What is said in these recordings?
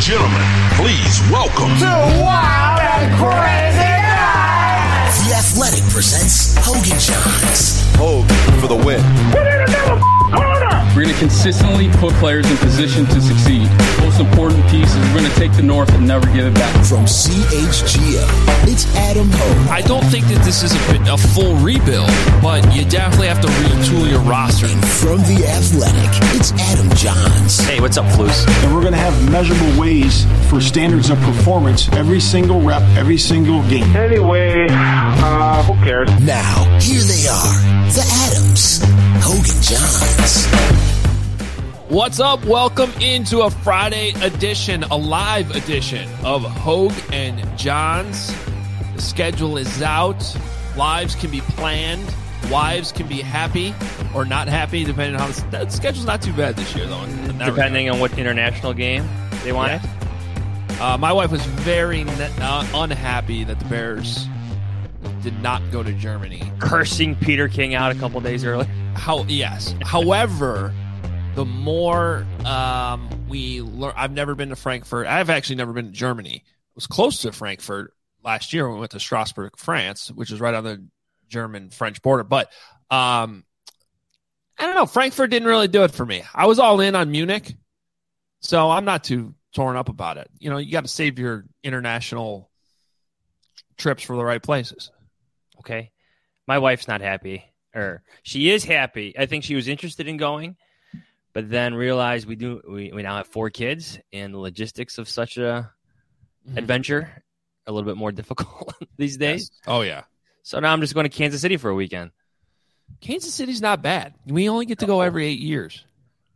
gentlemen, please welcome to Wild and Crazy Nights. The Athletic presents Hogan Johns. Hogan for the win. Put it in the corner. We're going to consistently put players in position to succeed. Most important piece is we're going to take the North and never give it back. From CHGO, it's Adam Hogue. I don't think that this is a full rebuild, but you definitely have to retool your roster. And from The Athletic, it's Adam Johns. Hey, what's up, Flus? And we're going to have measurable ways for standards of performance every single rep, every single game. Anyway, who cares? Now, here they are, the Adams, Hogan Johns. What's up? Welcome into a Friday edition, a live edition of Hogue and Johns. The schedule is out. Lives can be planned. Wives can be happy or not happy, depending on how the schedule's not too bad this year, though. Depending on what international game they wanted. Yeah. My wife was very unhappy that the Bears did not go to Germany. Cursing Peter King out a couple days early. Yes. However, the more we learn, I've never been to Frankfurt. I've actually never been to Germany. I was close to Frankfurt last year when we went to Strasbourg, France, which is right on the German-French border. But I don't know. Frankfurt didn't really do it for me. I was all in on Munich, so I'm not too torn up about it. You know, you got to save your international trips for the right places. Okay. My wife's not happy. Or she is happy. I think she was interested in going, but then realized we now have 4 kids, and the logistics of such a adventure are a little bit more difficult these days. Yes. Oh, yeah. So now I'm just going to Kansas City for a weekend. Kansas City's not bad. We only get to go every 8 years.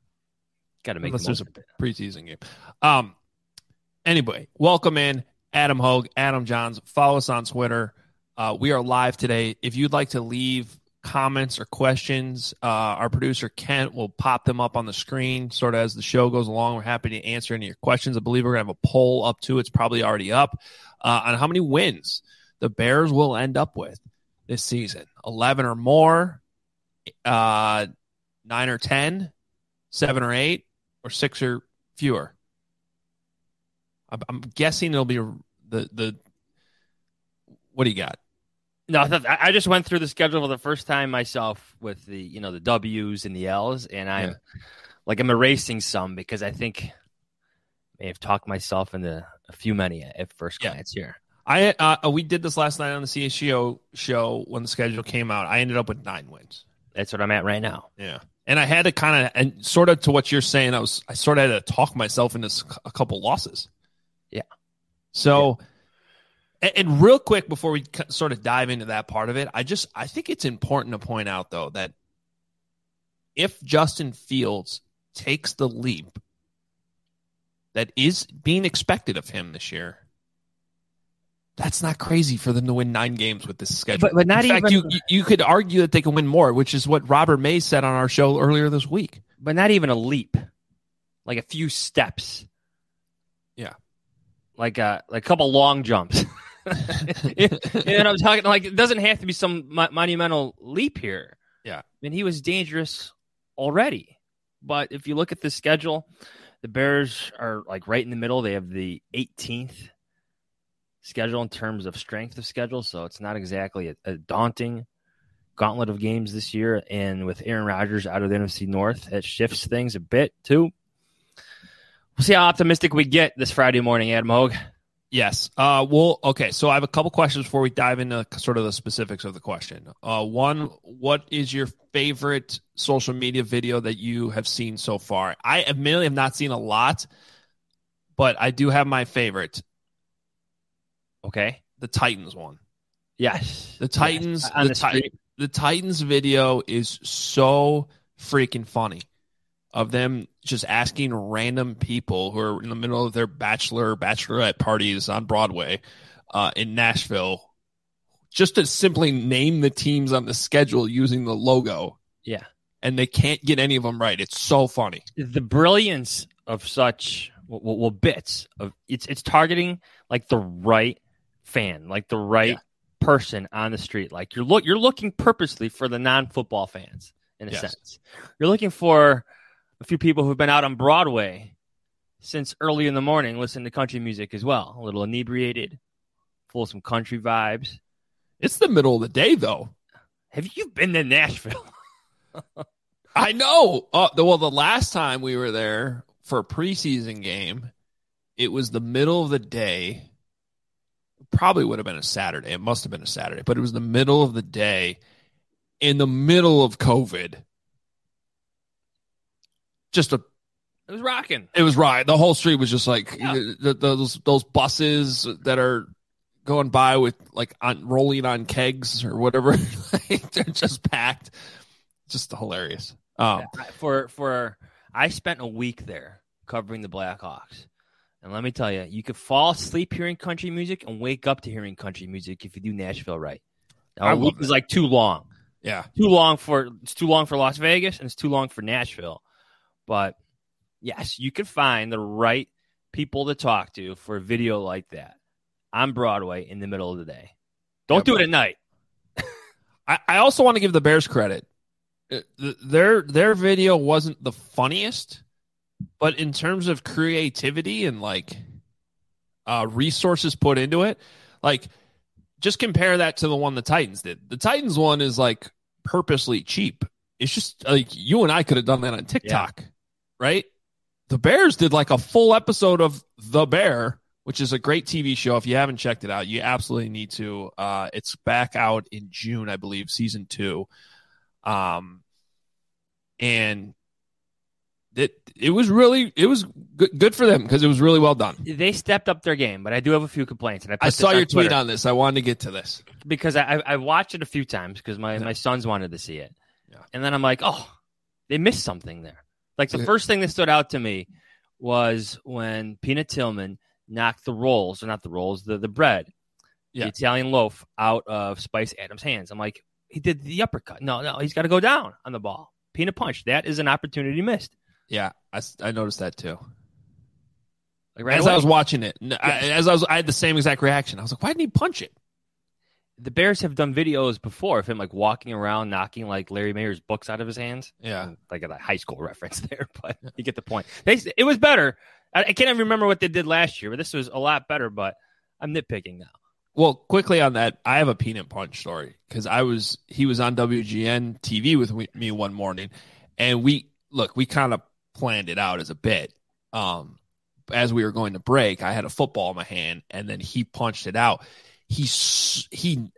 Got to make Unless the most there's a preseason game. Anyway, welcome in Adam Hogue, Adam Johns. Follow us on Twitter. We are live today. If you'd like to leave comments or questions, our producer Kent will pop them up on the screen sort of as the show goes along. We're happy to answer any of your questions. I believe we're going to have a poll up too. It's probably already up on how many wins the Bears will end up with this season. 11 or more, 9 or 10, 7 or 8, or 6 or fewer. I'm guessing it'll be the what do you got? No, I just went through the schedule for the first time myself with the the W's and the L's, and I'm erasing some because I think I may have talked myself into a few many at first glance here. We did this last night on the CHGO show when the schedule came out. I ended up with 9 wins. That's what I'm at right now. Yeah, and I had to kind of, and sort of to what you're saying, I sort of had to talk myself into a couple losses. Yeah. So. Yeah. And real quick, before we sort of dive into that part of it, I think it's important to point out, though, that if Justin Fields takes the leap that is being expected of him this year, that's not crazy for them to win 9 games with this schedule. But not in fact, you could argue that they can win more, which is what Robert May said on our show earlier this week. But not even a leap, like a few steps. Yeah. Like a couple long jumps. And I'm talking like it doesn't have to be some monumental leap here. Yeah. I mean, he was dangerous already. But if you look at the schedule, the Bears are like right in the middle. They have the 18th schedule in terms of strength of schedule. So it's not exactly a daunting gauntlet of games this year. And with Aaron Rodgers out of the NFC North, it shifts things a bit too. We'll see how optimistic we get this Friday morning, Adam Hogue. Yes. Okay. So I have a couple questions before we dive into sort of the specifics of the question. One, what is your favorite social media video that you have seen so far? I admittedly have not seen a lot, but I do have my favorite. Okay. The Titans one. Yes. The Titans. Yes. The Titans video is so freaking funny. Of them just asking random people who are in the middle of their bachelorette parties on Broadway in Nashville just to simply name the teams on the schedule using the logo. Yeah. And they can't get any of them right. It's so funny. The brilliance of such bits of it's targeting like the right fan, like the right person on the street. Like you're looking purposely for the non-football fans in a sense. You're looking for a few people who've been out on Broadway since early in the morning listening to country music as well. A little inebriated, full of some country vibes. It's the middle of the day, though. Have you been to Nashville? I know. Well, the last time we were there for a preseason game, it was the middle of the day. Probably would have been a Saturday. It must have been a Saturday, but it was the middle of the day in the middle of COVID. It was rocking. It was right. The whole street was just like those buses that are going by with rolling on kegs or whatever. They're just packed. Just hilarious. I spent a week there covering the Blackhawks. And let me tell you, you could fall asleep hearing country music and wake up to hearing country music if you do Nashville right. Now, a week is like too long. Yeah. It's too long for Las Vegas and it's too long for Nashville. But yes, you could find the right people to talk to for a video like that on Broadway in the middle of the day. Don't do it at night. I also want to give the Bears credit. Their video wasn't the funniest, but in terms of creativity and resources put into it, just compare that to the one the Titans did. The Titans one is purposely cheap. It's just you and I could have done that on TikTok, right? The Bears did a full episode of The Bear, which is a great TV show. If you haven't checked it out, you absolutely need to. It's back out in June, I believe, season 2. And it was good for them because it was really well done. They stepped up their game, but I do have a few complaints. And I saw your tweet on this. I wanted to get to this because I watched it a few times because my sons wanted to see it. Yeah. And then I'm like, oh, they missed something there. The first thing that stood out to me was when Peanut Tillman knocked the bread, the Italian loaf out of Spice Adams' hands. I'm like, he did the uppercut. No, he's got to go down on the ball. Peanut punch. That is an opportunity missed. Yeah, I noticed that too. Right as away. I was watching it, I had the same exact reaction. I was like, why didn't he punch it? The Bears have done videos before of him walking around, knocking Larry Mayer's books out of his hands. Yeah, a high school reference there, but you get the point. It was better. I can't even remember what they did last year, but this was a lot better. But I'm nitpicking now. Well, quickly on that, I have a peanut punch story because he was on WGN TV with me one morning, and we kind of planned it out as a bit. As we were going to break, I had a football in my hand, and then he punched it out. He sort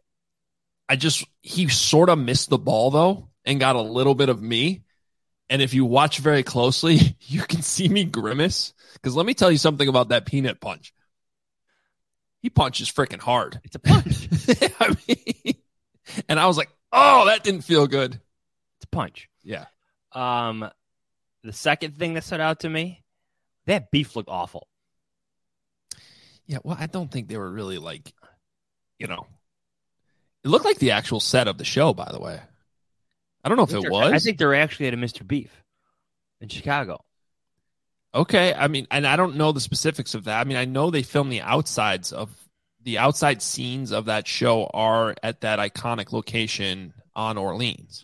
of missed the ball though, and got a little bit of me. And if you watch very closely, you can see me grimace because let me tell you something about that peanut punch. He punches freaking hard. It's a punch. And I was like, oh, that didn't feel good. It's a punch. Yeah. The second thing that stood out to me, that beef looked awful. Yeah, well, I don't think they were really it looked like the actual set of the show, by the way. I don't know if it was. I think they're actually at a Mr. Beef in Chicago. Okay, and I don't know the specifics of that. I know they filmed the outside scenes of that show are at that iconic location on Orleans.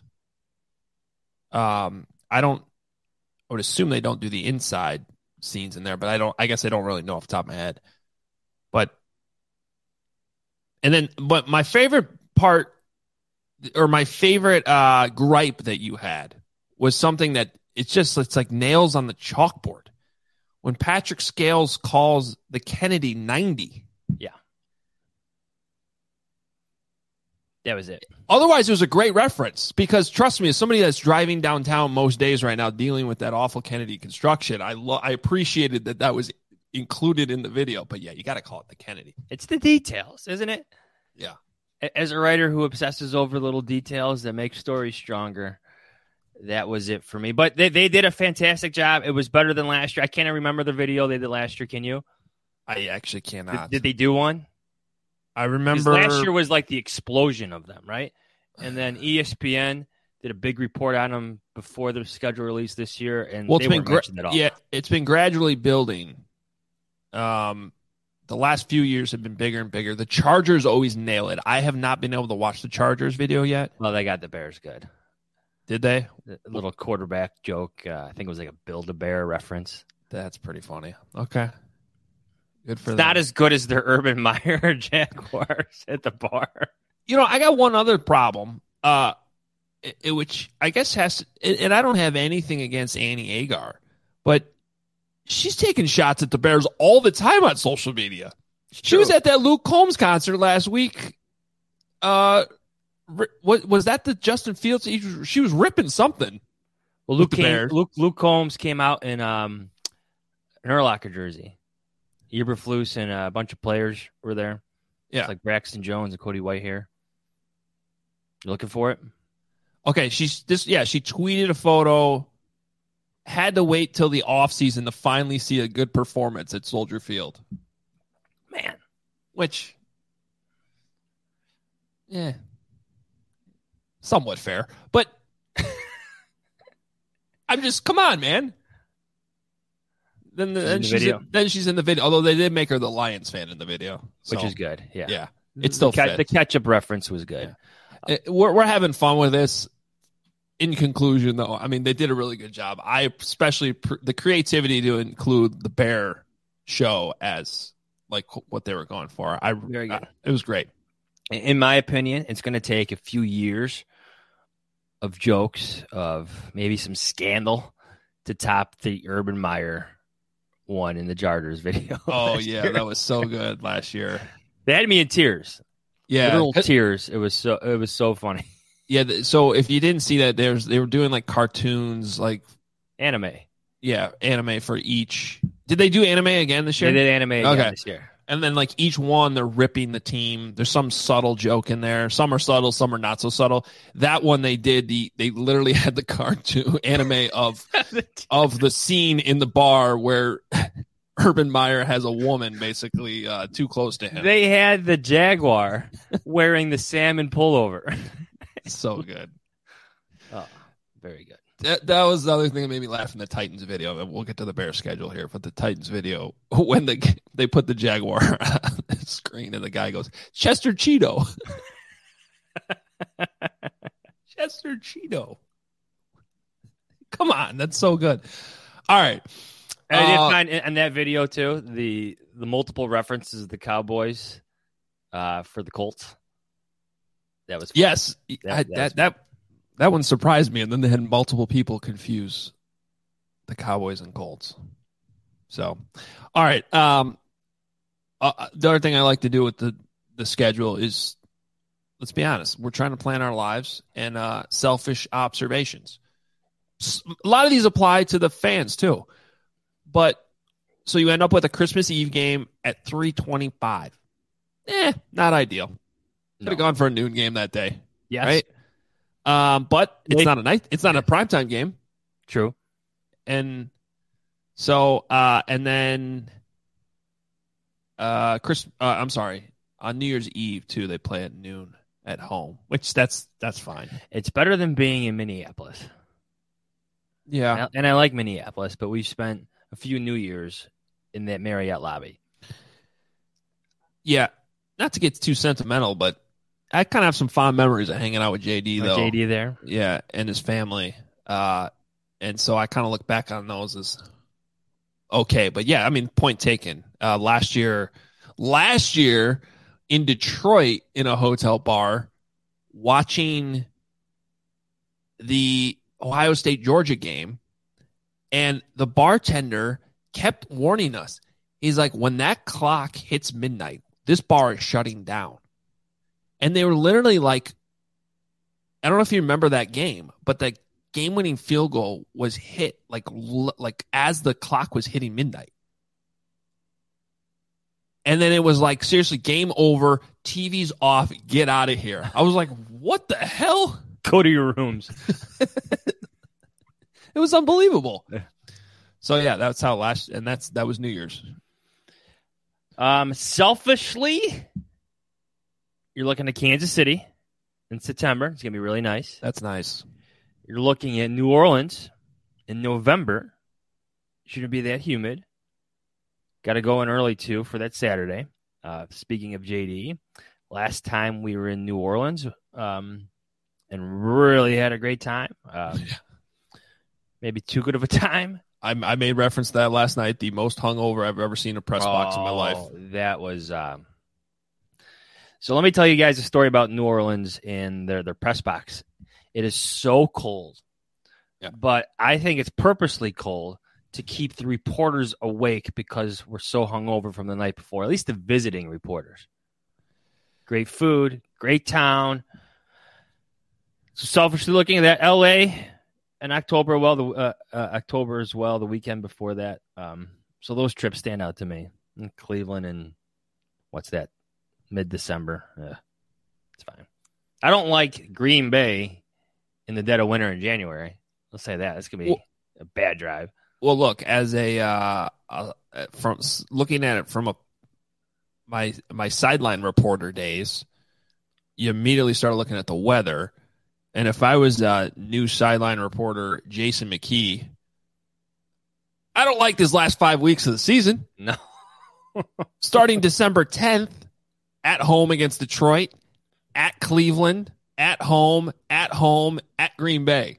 I would assume they don't do the inside scenes in there, but I guess I don't really know off the top of my head. But my favorite part or my favorite gripe that you had was something that it's like nails on the chalkboard. When Patrick Scales calls the Kennedy 90. Yeah. That was it. Otherwise, it was a great reference because, trust me, as somebody that's driving downtown most days right now dealing with that awful Kennedy construction, I appreciated that was included in the video. But, yeah, you got to call it the Kennedy. It's the details, isn't it? Yeah. As a writer who obsesses over little details that make stories stronger, that was it for me. But they did a fantastic job. It was better than last year. I can't remember the video they did last year. Can you? I actually cannot. Did they do one? I remember. Last year was the explosion of them, right? And then ESPN did a big report on them before their schedule release this year, and they weren't mentioned at all. Yeah, it's been gradually building. The last few years have been bigger and bigger. The Chargers always nail it. I have not been able to watch the Chargers video yet. Well, they got the Bears good. Did they? A little quarterback joke. I think it was a Build-A-Bear reference. That's pretty funny. Okay. Good for It's them. not as good as the Urban Meyer Jaguars at the bar. I got one other problem, which I guess and I don't have anything against Annie Agar, but she's taking shots at the Bears all the time on social media. She was at that Luke Combs concert last week. What was that? The Justin Fields? She was ripping something. Well, Luke Combs came out in an Urlacher jersey. Eberflus and a bunch of players were there. Yeah, it's like Braxton Jones and Cody Whitehair. You looking for it? Okay, she tweeted a photo. Had to wait till the offseason to finally see a good performance at Soldier Field. Man. Which, somewhat fair. But I'm just, come on, man. Then she's in the video. Although they did make her the Lions fan in the video. Which is good, yeah. Yeah, it's still the catch-up reference was good. Yeah. We're having fun with this. In conclusion, though, I mean, they did a really good job. I especially the creativity to include the Bear show as like what they were going for. Very good. It was great. In my opinion, it's going to take a few years of jokes, of maybe some scandal to top the Urban Meyer one in the Jarders video. Oh, yeah, that was so good last year. They had me in tears. Yeah, literal tears. It was so funny. Yeah, so if you didn't see that, they were doing like cartoons, like anime. Yeah, anime for each. Did they do anime again this year? They did anime again this year. And then like each one, they're ripping the team. There's some subtle joke in there. Some are subtle, some are not so subtle. That one they did. They literally had the cartoon anime of the scene in the bar where Urban Meyer has a woman basically too close to him. They had the Jaguar wearing the salmon pullover. So good. Oh, very good. That was the other thing that made me laugh in the Titans video. We'll get to the Bears schedule here, but the Titans video, when they put the Jaguar on the screen and the guy goes, Chester Cheeto. Chester Cheeto. Come on, that's so good. All right. I did find in that video too the multiple references of the Cowboys for the Colts. That was fun. Yes. That one surprised me, and then they had multiple people confuse the Cowboys and Colts. So, all right. The other thing I like to do with the schedule is, let's be honest, we're trying to plan our lives and selfish observations. A lot of these apply to the fans too. But so you end up with a Christmas Eve game at 3:25. Not ideal. Could have gone for a noon game that day. Yes. Right? But it's not a night. It's not a primetime game. True. And so, and then, on New Year's Eve too, they play at noon at home, which that's fine. It's better than being in Minneapolis. Yeah. And I like Minneapolis, but we've spent a few New Year's in that Marriott lobby. Yeah. Not to get too sentimental, but I kind of have some fond memories of hanging out with JD, though. JD there? Yeah, and his family. And so I kind of look back on those as okay. But yeah, I mean, point taken. Last year in Detroit in a hotel bar, watching the Ohio State-Georgia game, and the bartender kept warning us. He's like, when that clock hits midnight, this bar is shutting down. And they were literally like, I don't know if you remember that game, but the game-winning field goal was hit like as the clock was hitting midnight. And then it was like, seriously, game over, TV's off, get out of here. I was like, what the hell? Go to your rooms. It was unbelievable. So yeah, that's how that was New Year's. Selfishly, you're looking at Kansas City in September. It's going to be really nice. That's nice. You're looking at New Orleans in November. Shouldn't be that humid. Got to go in early, too, for that Saturday. Speaking of JD, last time we were in New Orleans and really had a great time. Maybe too good of a time. I made reference to that last night. The most hungover I've ever seen a press box in my life. That was. So let me tell you guys a story about New Orleans and their press box. It is so cold, but I think it's purposely cold to keep the reporters awake because we're so hungover from the night before. At least the visiting reporters. Great food, great town. So selfishly looking at that, L.A. in October, October as well, the weekend before that. So those trips stand out to me. In Cleveland and what's that? Mid-December. It's fine. I don't like Green Bay in the dead of winter in January. Let's say that. It's going to be a bad drive. Well, look, as from looking at it from my sideline reporter days, you immediately start looking at the weather. And if I was new sideline reporter Jason McKee, I don't like this last 5 weeks of the season. No. Starting December 10th, at home against Detroit, at Cleveland, at home, at Green Bay.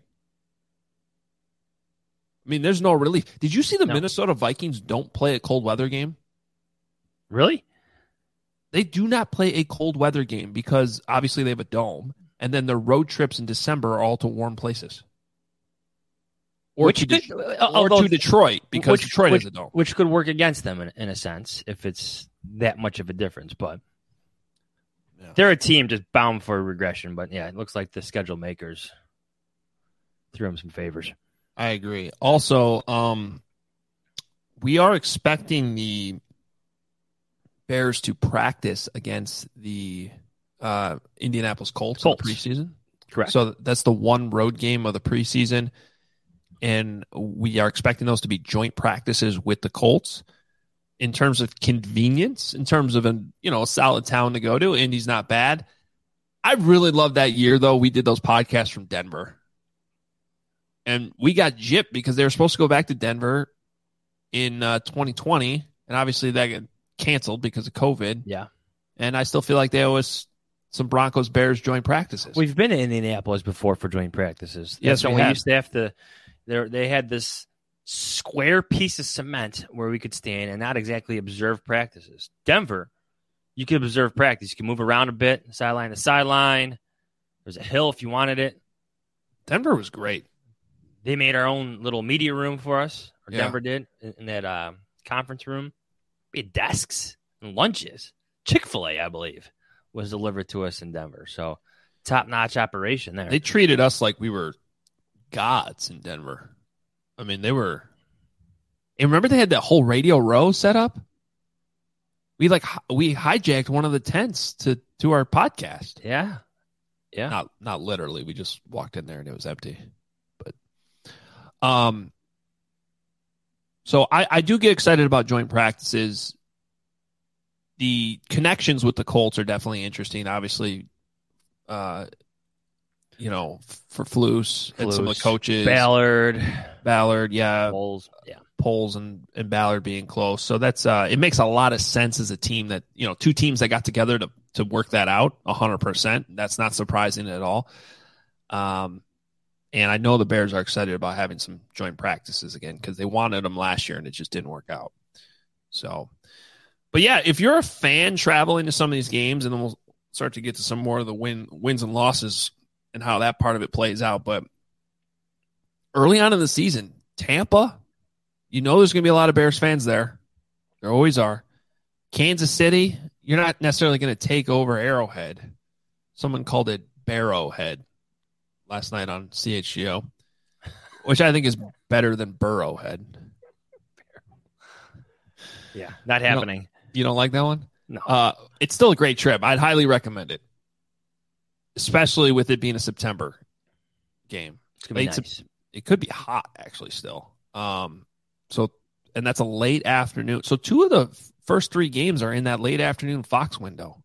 I mean, there's no relief. Did you see the Minnesota Vikings don't play a cold weather game? Really? They do not play a cold weather game because obviously they have a dome, and then their road trips in December are all to warm places. Or to Detroit because Detroit has a dome. Which could work against them in a sense if it's that much of a difference. But they're a team just bound for regression. But, yeah, it looks like the schedule makers threw them some favors. I agree. Also, we are expecting the Bears to practice against the Indianapolis Colts in the preseason. Correct. So that's the one road game of the preseason. And we are expecting those to be joint practices with the Colts. In terms of convenience, in terms of a solid town to go to, Indy's not bad. I really loved that year, though. We did those podcasts from Denver. And we got gypped because they were supposed to go back to Denver in 2020. And obviously that got canceled because of COVID. Yeah. And I still feel like they owe us some Broncos-Bears joint practices. We've been to Indianapolis before for joint practices. Yes, we used to have to. They had this square piece of cement where we could stand and not exactly observe practices. Denver, you could observe practice. You can move around a bit, sideline to sideline. There's a hill if you wanted it. Denver was great. They made our own little media room for us, or Denver did, in that conference room. We had desks and lunches. Chick-fil-A, I believe, was delivered to us in Denver. So, top-notch operation there. They treated us like we were gods in Denver. I mean, they were. And remember, they had that whole Radio Row set up. We hijacked one of the tents to our podcast. Yeah. Not literally. We just walked in there and it was empty. But, so I do get excited about joint practices. The connections with the Colts are definitely interesting. Obviously, for Flus and some of the coaches. Ballard, yeah. Poles and Ballard being close. So that's it makes a lot of sense as a team that, two teams that got together to work that out 100%. That's not surprising at all. And I know the Bears are excited about having some joint practices again because they wanted them last year and it just didn't work out. So, but yeah, if you're a fan traveling to some of these games, and then we'll start to get to some more of the wins and losses and how that part of it plays out. But early on in the season, Tampa, there's going to be a lot of Bears fans there. There always are. Kansas City, you're not necessarily going to take over Arrowhead. Someone called it Barrowhead last night on CHGO, which I think is better than Burrowhead. Yeah, not happening. You don't like that one? No. It's still a great trip. I'd highly recommend it, especially with it being a September game. It's going to be nice. It could be hot, actually, still. And that's a late afternoon. So 2 of the first 3 games are in that late afternoon Fox window.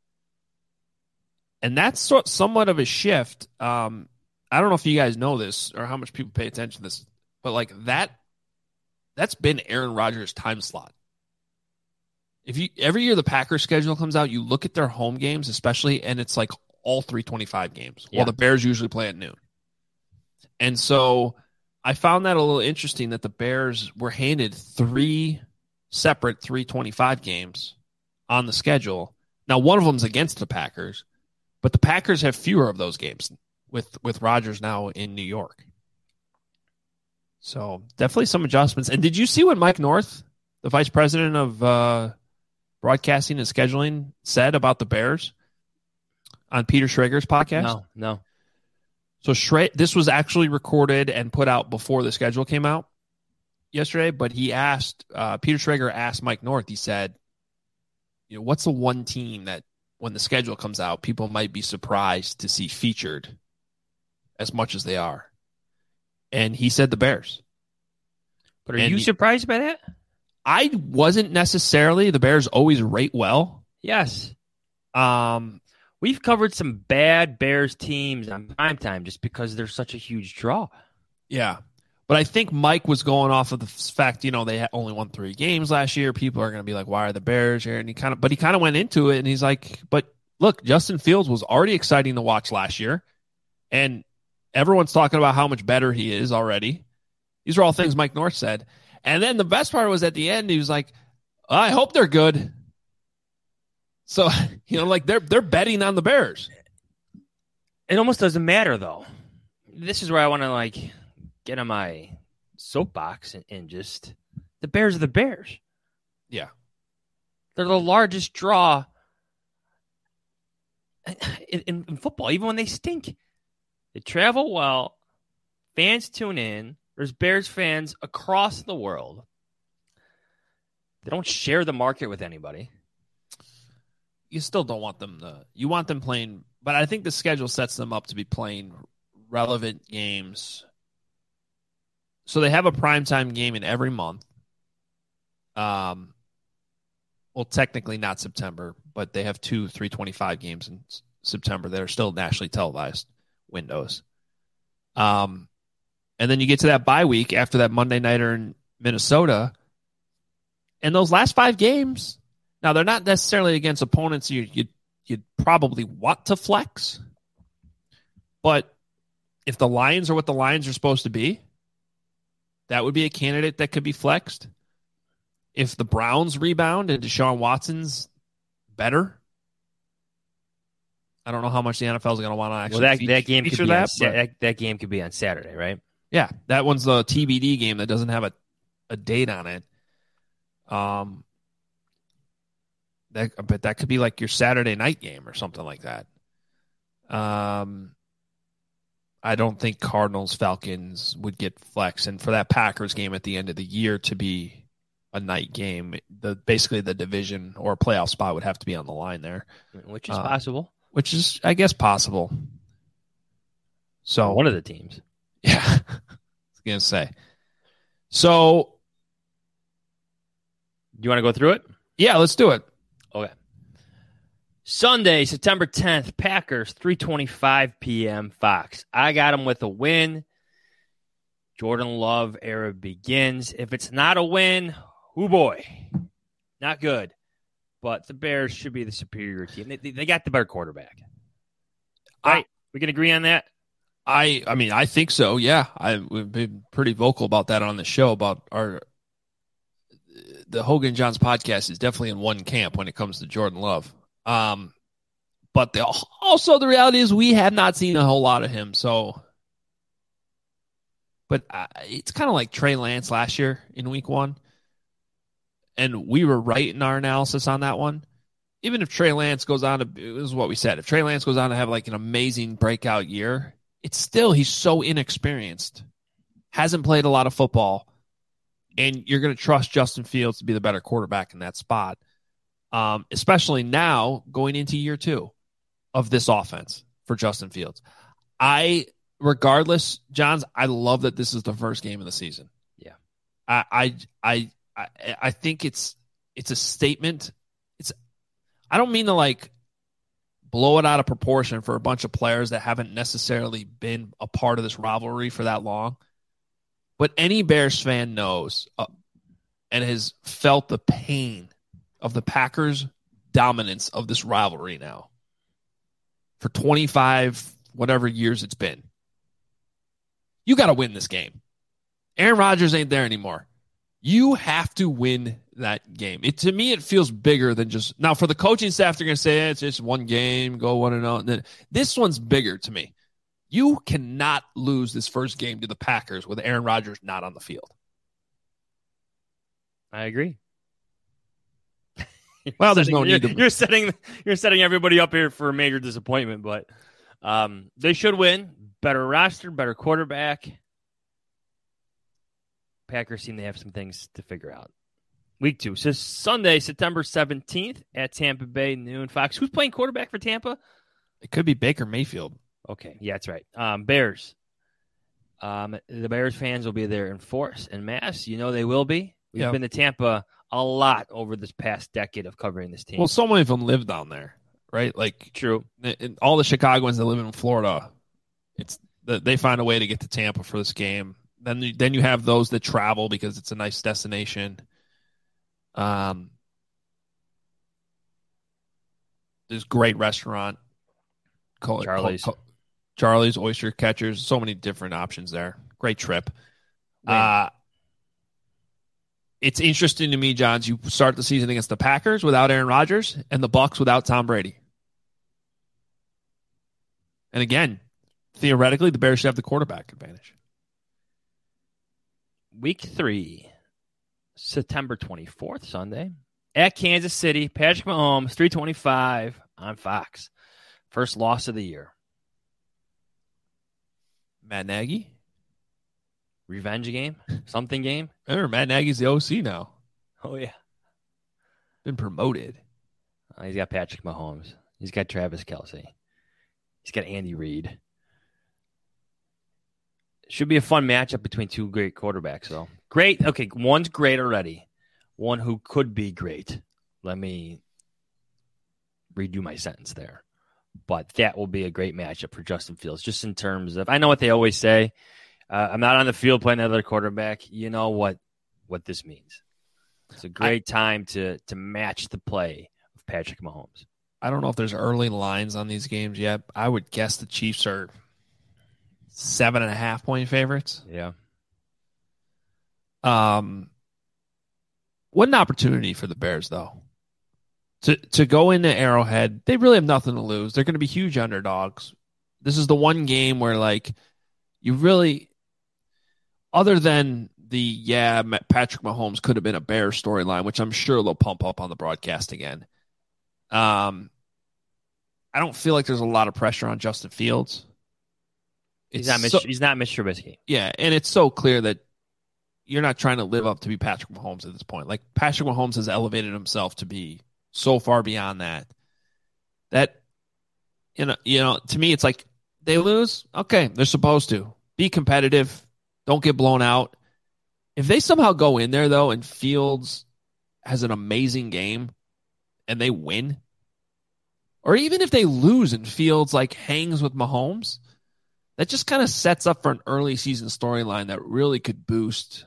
And that's somewhat of a shift. I don't know if you guys know this or how much people pay attention to this, but that's been Aaron Rodgers' time slot. Every year the Packers schedule comes out, you look at their home games, especially, and it's like all 3:25 games. Yeah. While the Bears usually play at noon. And so I found that a little interesting that the Bears were handed 3 separate 325 games on the schedule. Now, one of them's against the Packers, but the Packers have fewer of those games with Rodgers now in New York. So definitely some adjustments. And did you see what Mike North, the vice president of broadcasting and scheduling, said about the Bears on Peter Schrager's podcast? No. So this was actually recorded and put out before the schedule came out yesterday, but he asked, Peter Schrager asked Mike North, he said, what's the one team that when the schedule comes out, people might be surprised to see featured as much as they are? And he said the Bears. But are you surprised by that? I wasn't necessarily. The Bears always rate well. Yes. We've covered some bad Bears teams on primetime just because they're such a huge draw. Yeah. But I think Mike was going off of the fact, they only won 3 games last year. People are going to be like, why are the Bears here? And he kind of went into it and he's like, but look, Justin Fields was already exciting to watch last year. And everyone's talking about how much better he is already. These are all things Mike North said. And then the best part was at the end, he was like, I hope they're good. So, they're betting on the Bears. It almost doesn't matter, though. This is where I want to, get on my soapbox and just the Bears are the Bears. Yeah. They're the largest draw in football, even when they stink. They travel well. Fans tune in. There's Bears fans across the world. They don't share the market with anybody. You still don't want them to. You want them playing, but I think the schedule sets them up to be playing relevant games. So they have a primetime game in every month. Well, technically not September, but they have 2 325 games in September that are still nationally televised windows. And then you get to that bye week after that Monday nighter in Minnesota. And those last 5 games, now they're not necessarily against opponents you'd probably want to flex. But if the Lions are what the Lions are supposed to be, that would be a candidate that could be flexed. If the Browns rebound and Deshaun Watson's better, I don't know how much the NFL is going to want to actually that game could feature be that. That game could be on Saturday, right? Yeah, that one's the TBD game that doesn't have a date on it. But that could be like your Saturday night game or something like that. I don't think Cardinals Falcons would get flex, and for that Packers game at the end of the year to be a night game, basically the division or playoff spot would have to be on the line there, which is possible. Which is, I guess, possible. So one of the teams, yeah, I was gonna say. So, you want to go through it? Yeah, let's do it. Okay. Sunday, September 10th, Packers, 3:25 p.m. Fox. I got them with a win. Jordan Love era begins. If it's not a win, oh boy, not good. But the Bears should be the superior team. They got the better quarterback. Right? We can agree on that? I mean, I think so, yeah. We've been pretty vocal about that on the show, about the Hogan Johns podcast is definitely in one camp when it comes to Jordan Love. But also the reality is we have not seen a whole lot of him. So, but it's kind of like Trey Lance last year in week 1. And we were right in our analysis on that one. Even if Trey Lance goes on to, this is what we said, if Trey Lance goes on to have like an amazing breakout year, it's still, he's so inexperienced, hasn't played a lot of football, and you're going to trust Justin Fields to be the better quarterback in that spot. Especially now going into year 2 of this offense for Justin Fields. Regardless, Johns, I love that this is the first game of the season. Yeah. I think it's a statement. I don't mean to like blow it out of proportion for a bunch of players that haven't necessarily been a part of this rivalry for that long. But any Bears fan knows and has felt the pain of the Packers' dominance of this rivalry now for 25 whatever years it's been. You got to win this game. Aaron Rodgers ain't there anymore. You have to win that game. To me, it feels bigger than just now. For the coaching staff, they're going to say it's just one game, go 1-0. And then this one's bigger to me. You cannot lose this first game to the Packers with Aaron Rodgers not on the field. I agree. Well, there's no need to. You're setting everybody up here for a major disappointment, but they should win. Better roster, better quarterback. Packers seem to have some things to figure out. Week 2. So Sunday, September 17th at Tampa Bay, noon. Fox. Who's playing quarterback for Tampa? It could be Baker Mayfield. Okay, yeah, that's right. Bears. The Bears fans will be there in force and mass. You know they will be. We've been to Tampa a lot over this past decade of covering this team. Well, so many of them live down there, right? Like, true. All the Chicagoans that live in Florida, they find a way to get to Tampa for this game. Then you have those that travel because it's a nice destination. There's great restaurant. Charlie's Oyster Catchers. So many different options there. Great trip. It's interesting to me, Johns, you start the season against the Packers without Aaron Rodgers and the Bucs without Tom Brady. And again, theoretically, the Bears should have the quarterback advantage. Week 3, September 24th, Sunday, at Kansas City. Patrick Mahomes, 325 on Fox. First loss of the year. Matt Nagy? Revenge game? Something game? Remember, Matt Nagy's the OC now. Oh, yeah. Been promoted. He's got Patrick Mahomes. He's got Travis Kelce. He's got Andy Reid. Should be a fun matchup between two great quarterbacks, though. Great. Okay, one's great already. One who could be great. Let me redo my sentence there. But that will be a great matchup for Justin Fields, just in terms of, I know what they always say. I'm not on the field playing another quarterback. You know what this means. It's a great time to match the play of Patrick Mahomes. I don't know if there's early lines on these games yet. I would guess the Chiefs are 7.5-point favorites. Yeah. What an opportunity for the Bears, though. To go into Arrowhead, they really have nothing to lose. They're going to be huge underdogs. This is the one game where, like, you really, other than Patrick Mahomes could have been a Bears storyline, which I'm sure they'll pump up on the broadcast again. I don't feel like there's a lot of pressure on Justin Fields. He's not Mitch Trubisky. Yeah, and it's so clear that you're not trying to live up to be Patrick Mahomes at this point. Like, Patrick Mahomes has elevated himself to be so far beyond that. That, you know, to me, it's like they lose. Okay, they're supposed to be competitive. Don't get blown out. If they somehow go in there, though, and Fields has an amazing game and they win, or even if they lose and Fields like hangs with Mahomes, that just kind of sets up for an early season storyline that really could boost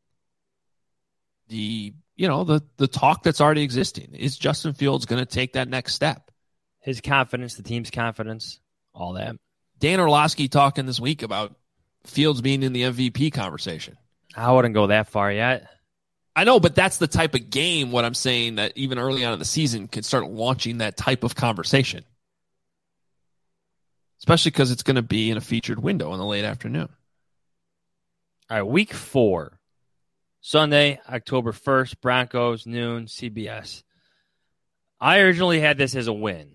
the talk that's already existing. Is Justin Fields going to take that next step? His confidence, the team's confidence, all that. Dan Orlovsky talking this week about Fields being in the MVP conversation. I wouldn't go that far yet. I know, but that's the type of game, what I'm saying, that even early on in the season could start launching that type of conversation. Especially because it's going to be in a featured window in the late afternoon. All right, week 4. Sunday, October 1st, Broncos, noon, CBS. I originally had this as a win.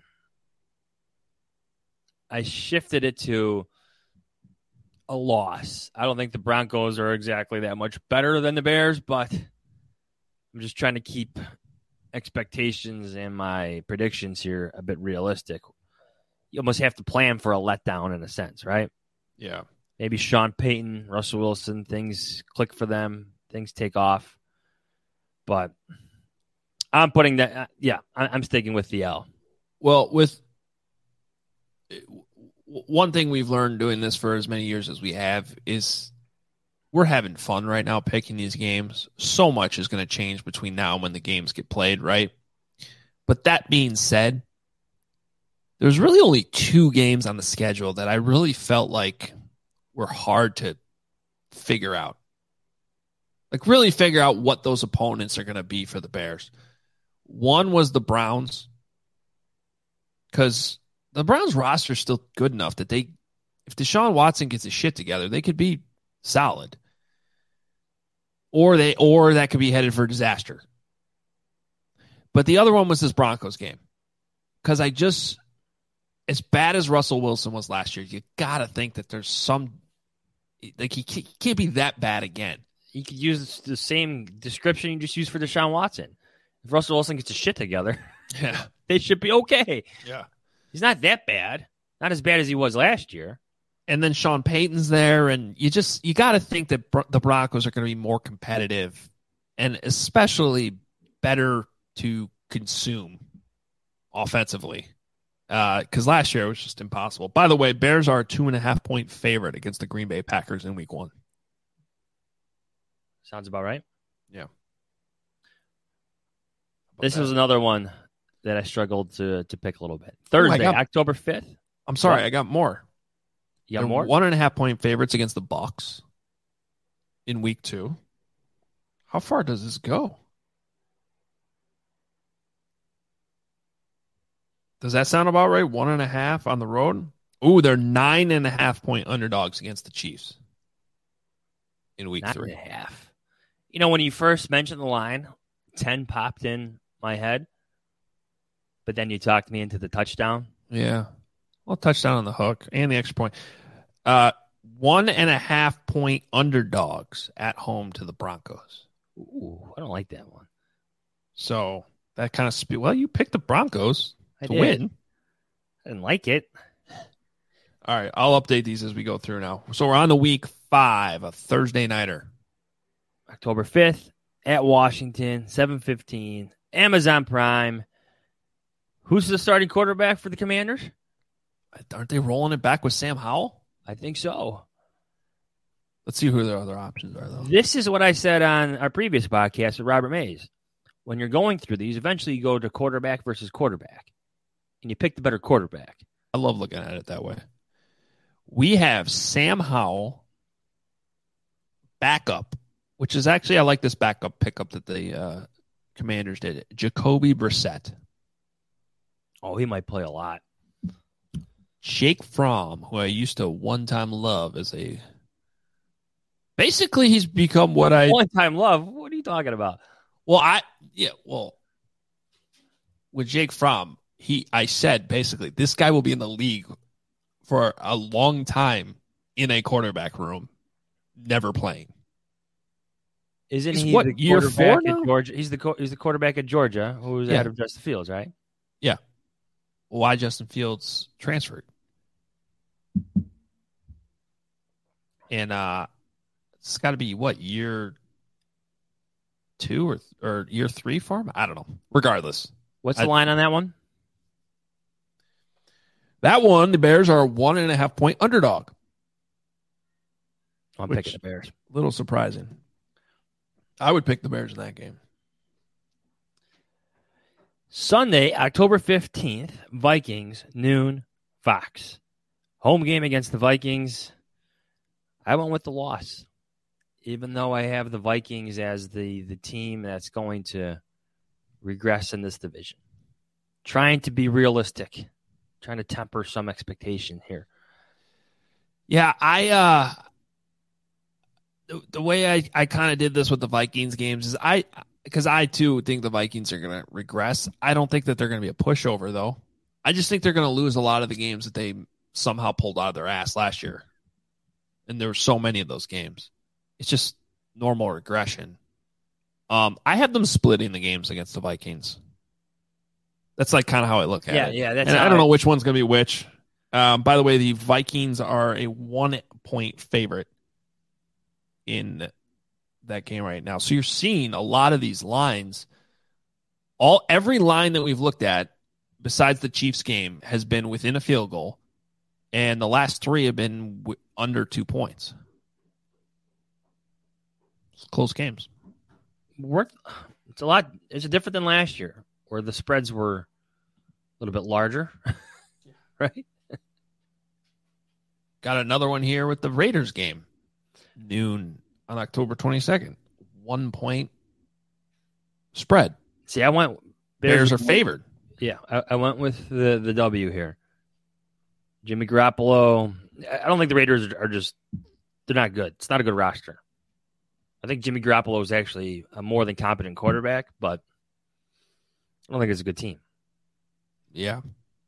I shifted it to a loss. I don't think the Broncos are exactly that much better than the Bears, but I'm just trying to keep expectations and my predictions here a bit realistic. You almost have to plan for a letdown in a sense, right? Yeah. Maybe Sean Payton, Russell Wilson, things click for them, things take off. But I'm putting that, I'm sticking with the L. Well, with one thing we've learned doing this for as many years as we have is we're having fun right now picking these games. So much is going to change between now and when the games get played, right? But that being said, there's really only 2 games on the schedule that I really felt like were hard to figure out. Like, really figure out what those opponents are going to be for the Bears. One was the Browns, because the Browns roster is still good enough that if Deshaun Watson gets his shit together, they could be solid. Or that could be headed for disaster. But the other one was this Broncos game. Because as bad as Russell Wilson was last year, you got to think that there's some, like, he can't be that bad again. You could use the same description you just used for Deshaun Watson. If Russell Wilson gets his shit together, they should be okay. Yeah. He's not that bad. Not as bad as he was last year. And then Sean Payton's there, and you got to think that the Broncos are going to be more competitive and especially better to consume offensively. Because last year it was just impossible. By the way, Bears are a 2.5-point favorite against the Green Bay Packers in Week 1. Sounds about right. Yeah. This was another one that I struggled to pick a little bit. Thursday, October 5th. I'm sorry, I got more. You got more? 1.5-point favorites against the Bucs in Week 2. How far does this go? Does that sound about right? 1.5 on the road? Ooh, they're 9.5-point underdogs against the Chiefs in Week 3. 9.5. You know, when you first mentioned the line, 10 popped in my head, but then you talked me into the touchdown. Yeah. Well, touchdown on the hook and the extra point. 1.5-point underdogs at home to the Broncos. Ooh, I don't like that one. So that kind of well, you picked the Broncos to did. win. I didn't like it. All right, I'll update these as we go through now. So we're on to Week 5, a Thursday nighter. October 5th at Washington, 7:15, Amazon Prime. Who's the starting quarterback for the Commanders? Aren't they rolling it back with Sam Howell? I think so. Let's see who their other options are, though. This is what I said on our previous podcast with Robert Mays. When you're going through these, eventually you go to quarterback versus quarterback, and you pick the better quarterback. I love looking at it that way. We have Sam Howell, backup, which is actually, I like this backup pickup that the Commanders did. Jacoby Brissett. Oh, he might play a lot. Jake Fromm, who I used to one-time love as a... Basically, he's become what I... One-time love? What are you talking about? Well, with Jake Fromm, I said, basically, this guy will be in the league for a long time in a quarterback room, never playing. Isn't he's he what, the year quarterback 4 now? at Georgia? He's the quarterback at Georgia, who was ahead of Justin Fields, right? Yeah. Why Justin Fields transferred. And it's got to be, what, year 2 or year 3 for him? I don't know. Regardless. What's the line on that one? That one, the Bears are a 1.5-point underdog. I'm picking the Bears. A little surprising. I would pick the Bears in that game. Sunday, October 15th, Vikings, noon, Fox. Home game against the Vikings. I went with the loss, even though I have the Vikings as the team that's going to regress in this division. Trying to be realistic. Trying to temper some expectation here. Yeah, the way I kind of did this with the Vikings games is because I too think the Vikings are going to regress. I don't think that they're going to be a pushover, though. I just think they're going to lose a lot of the games that they somehow pulled out of their ass last year. And there were so many of those games. It's just normal regression. I have them splitting the games against the Vikings. That's like kind of how I look at it. Yeah, that's. And I don't know which one's going to be which. By the way, the Vikings are a 1-point favorite in that game right now. So you're seeing a lot of these lines. Every line that we've looked at, besides the Chiefs game, has been within a field goal, and the last 3 have been under 2 points. It's close games. It's a lot. It's different than last year, where the spreads were a little bit larger, right? Got another one here with the Raiders game. Noon on October 22nd. 1 point spread. See, I went Bears are favored. Yeah, I went with the W here. Jimmy Garoppolo. I don't think the Raiders are just – they're not good. It's not a good roster. I think Jimmy Garoppolo is actually a more than competent quarterback, but I don't think it's a good team. Yeah.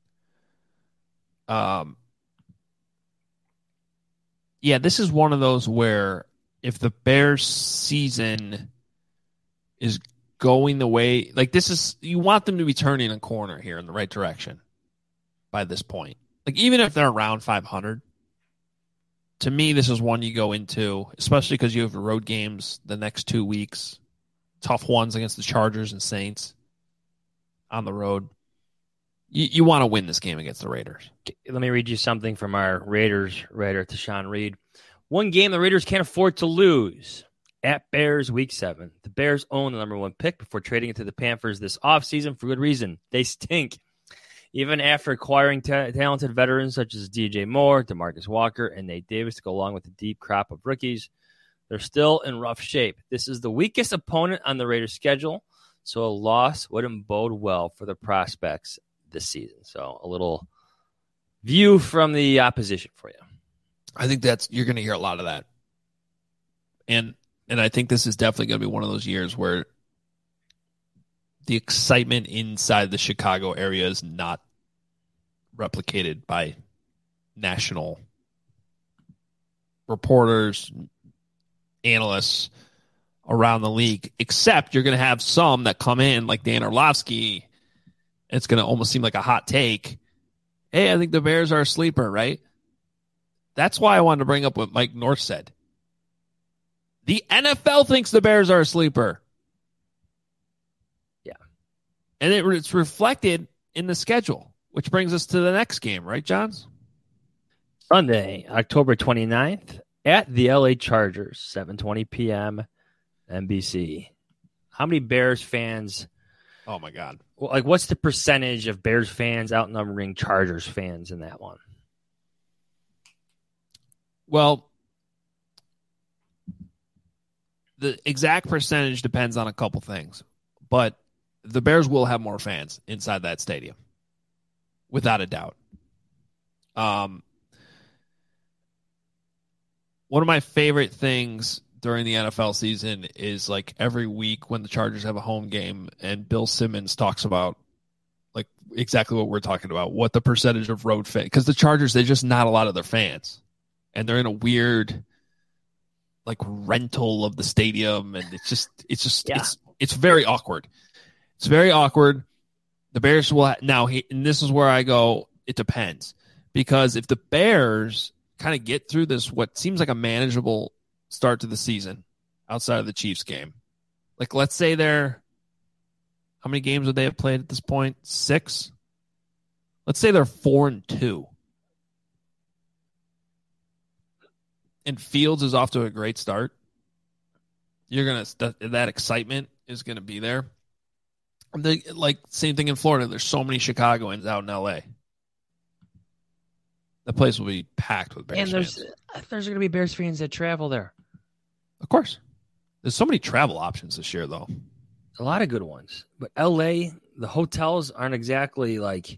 Yeah, this is one of those where if the Bears season is going the way, like this is, you want them to be turning a corner here in the right direction by this point. Like even if they're around 500, to me, this is one you go into, especially because you have road games the next 2 weeks, tough ones against the Chargers and Saints on the road. You want to win this game against the Raiders. Let me read you something from our Raiders writer, Tashawn Reed. One game the Raiders can't afford to lose. At Bears Week 7. The Bears own the number 1 pick before trading it to the Panthers this offseason for good reason. They stink. Even after acquiring talented veterans such as DJ Moore, DeMarcus Walker, and Nate Davis to go along with a deep crop of rookies, they're still in rough shape. This is the weakest opponent on the Raiders' schedule, so a loss wouldn't bode well for the prospects this season. So a little view from the opposition for you. I think you're going to hear a lot of that. And I think this is definitely going to be one of those years where the excitement inside the Chicago area is not replicated by national reporters, analysts around the league, except you're going to have some that come in like Dan Orlovsky. It's going to almost seem like a hot take. Hey, I think the Bears are a sleeper, right? That's why I wanted to bring up what Mike North said. The NFL thinks the Bears are a sleeper. Yeah. And it's reflected in the schedule, which brings us to the next game, right, Johns? Sunday, October 29th at the LA Chargers, 7:20 p.m. NBC. How many Bears fans? Oh, my God. Like, what's the percentage of Bears fans outnumbering Chargers fans in that one? Well, the exact percentage depends on a couple things, but the Bears will have more fans inside that stadium, without a doubt. One of my favorite things during the NFL season is like every week when the Chargers have a home game and Bill Simmons talks about like exactly what we're talking about, what the percentage of road fans, because the Chargers, they're just not a lot of their fans, and they're in a weird like rental of the stadium, and it's very awkward. It's very awkward. The Bears will and this is where I go, it depends, because if the Bears kind of get through this what seems like a manageable start to the season outside of the Chiefs game, like let's say how many games would they have played at this point? 6. Let's say they're 4-2. And Fields is off to a great start. That excitement is gonna be there. Like same thing in Florida. There's so many Chicagoans out in LA. The place will be packed with Bears fans. And there's gonna be Bears fans that travel there. Of course. There's so many travel options this year, though. A lot of good ones. But LA, the hotels aren't exactly like,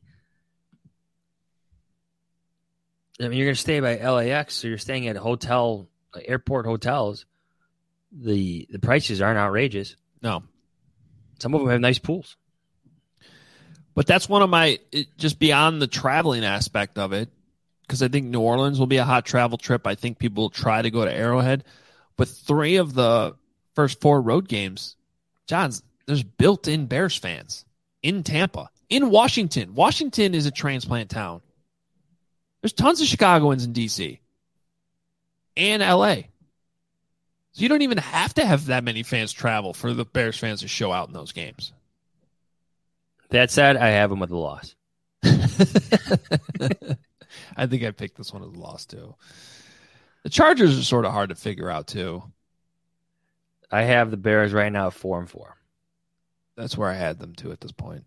I mean, you're going to stay by LAX, so you're staying at airport hotels. The prices aren't outrageous. No. Some of them have nice pools. But that's one of just beyond the traveling aspect of it, because I think New Orleans will be a hot travel trip. I think people will try to go to Arrowhead. But 3 of the first 4 road games, Johns, there's built-in Bears fans in Tampa, in Washington. Washington is a transplant town. There's tons of Chicagoans in D.C. and L.A. So you don't even have to have that many fans travel for the Bears fans to show out in those games. That said, I have them with a loss. I think I picked this one as a loss, too. The Chargers are sort of hard to figure out, too. I have the Bears right now at 4-4. That's where I had them, too, at this point.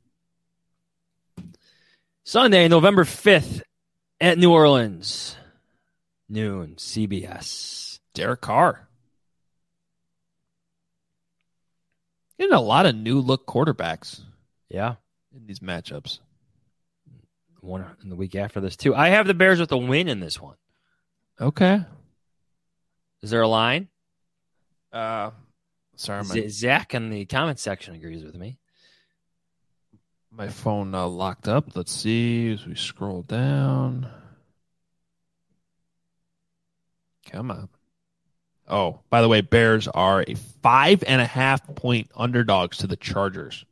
Sunday, November 5th at New Orleans. Noon, CBS. Derek Carr. Getting a lot of new look quarterbacks Yeah. in these matchups. One in the week after this, too. I have the Bears with a win in this one. Okay. Is there a line? Sorry, Zach in the comment section agrees with me. my phone locked up. Let's see as we scroll down. Come on. Oh, by the way, Bears are a 5.5-point underdogs to the Chargers.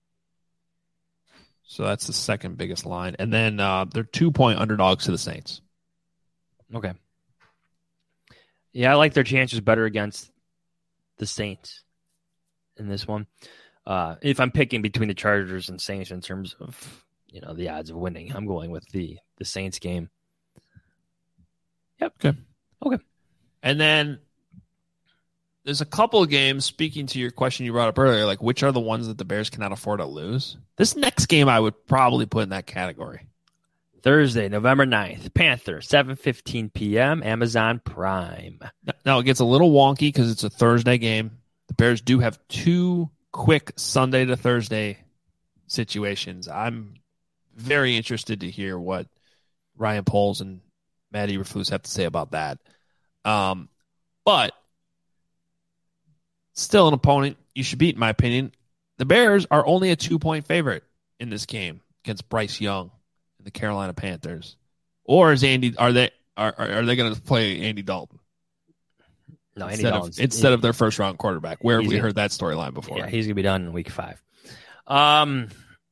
So that's the second biggest line. And then they're 2-point underdogs to the Saints. Okay. Yeah, I like their chances better against the Saints in this one. If I'm picking between the Chargers and Saints in terms of, the odds of winning, I'm going with the Saints game. Yep. Okay. And then there's a couple of games, speaking to your question you brought up earlier, like which are the ones that the Bears cannot afford to lose? This next game I would probably put in that category. Thursday, November 9th, Panthers, 7:15 p.m., Amazon Prime. Now, it gets a little wonky because it's a Thursday game. The Bears do have 2 quick Sunday to Thursday situations. I'm very interested to hear what Ryan Poles and Matt Eberflus have to say about that. But still an opponent you should beat, in my opinion. The Bears are only a 2-point favorite in this game against Bryce Young and the Carolina Panthers. Or are they going to play Andy Dalton? No, instead of their first round quarterback. Where have we heard that storyline before? Yeah, he's gonna be done in week 5. I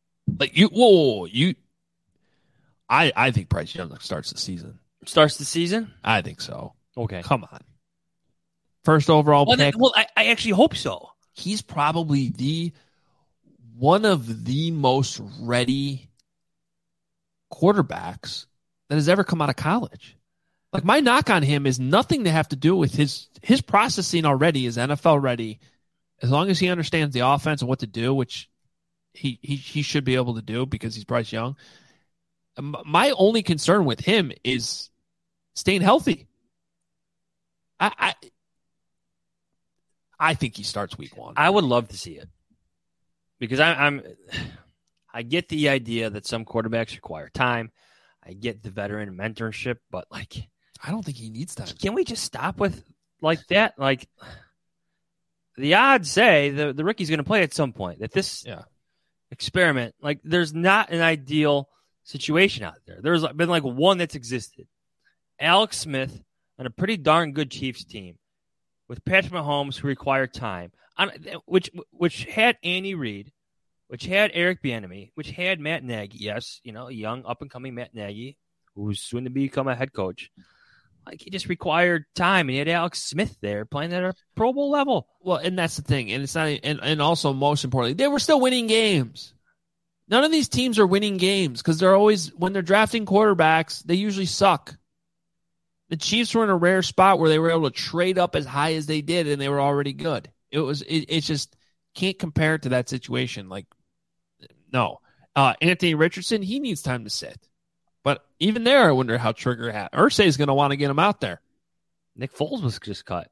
think Bryce Young starts the season. Starts the season? I think so. Okay. Come on. First overall pick. I actually hope so. He's probably one of the most ready quarterbacks that has ever come out of college. Like, my knock on him is nothing to have to do with his processing already is NFL ready. As long as he understands the offense and what to do, which he should be able to do because he's Bryce Young. My only concern with him is staying healthy. I think he starts week 1. I would love to see it because I get the idea that some quarterbacks require time. I get the veteran mentorship, but I don't think he needs time. Can we just stop with that? Like, the odds say the rookie's going to play at some point. That this experiment, there's not an ideal situation out there. There's been one that's existed. Alex Smith on a pretty darn good Chiefs team with Patrick Mahomes, who required time, which had Andy Reid, which had Eric Bieniemy, which had Matt Nagy. Yes, young up and coming Matt Nagy, who's soon to become a head coach. He just required time, and he had Alex Smith there playing at a Pro Bowl level. Well, and that's the thing, and it's not, and also most importantly, they were still winning games. None of these teams are winning games because they're always, when they're drafting quarterbacks, they usually suck. The Chiefs were in a rare spot where they were able to trade up as high as they did, and they were already good. It's just can't compare it to that situation. No. Anthony Richardson, he needs time to sit. But even there, I wonder how Irsay is going to want to get him out there. Nick Foles was just cut.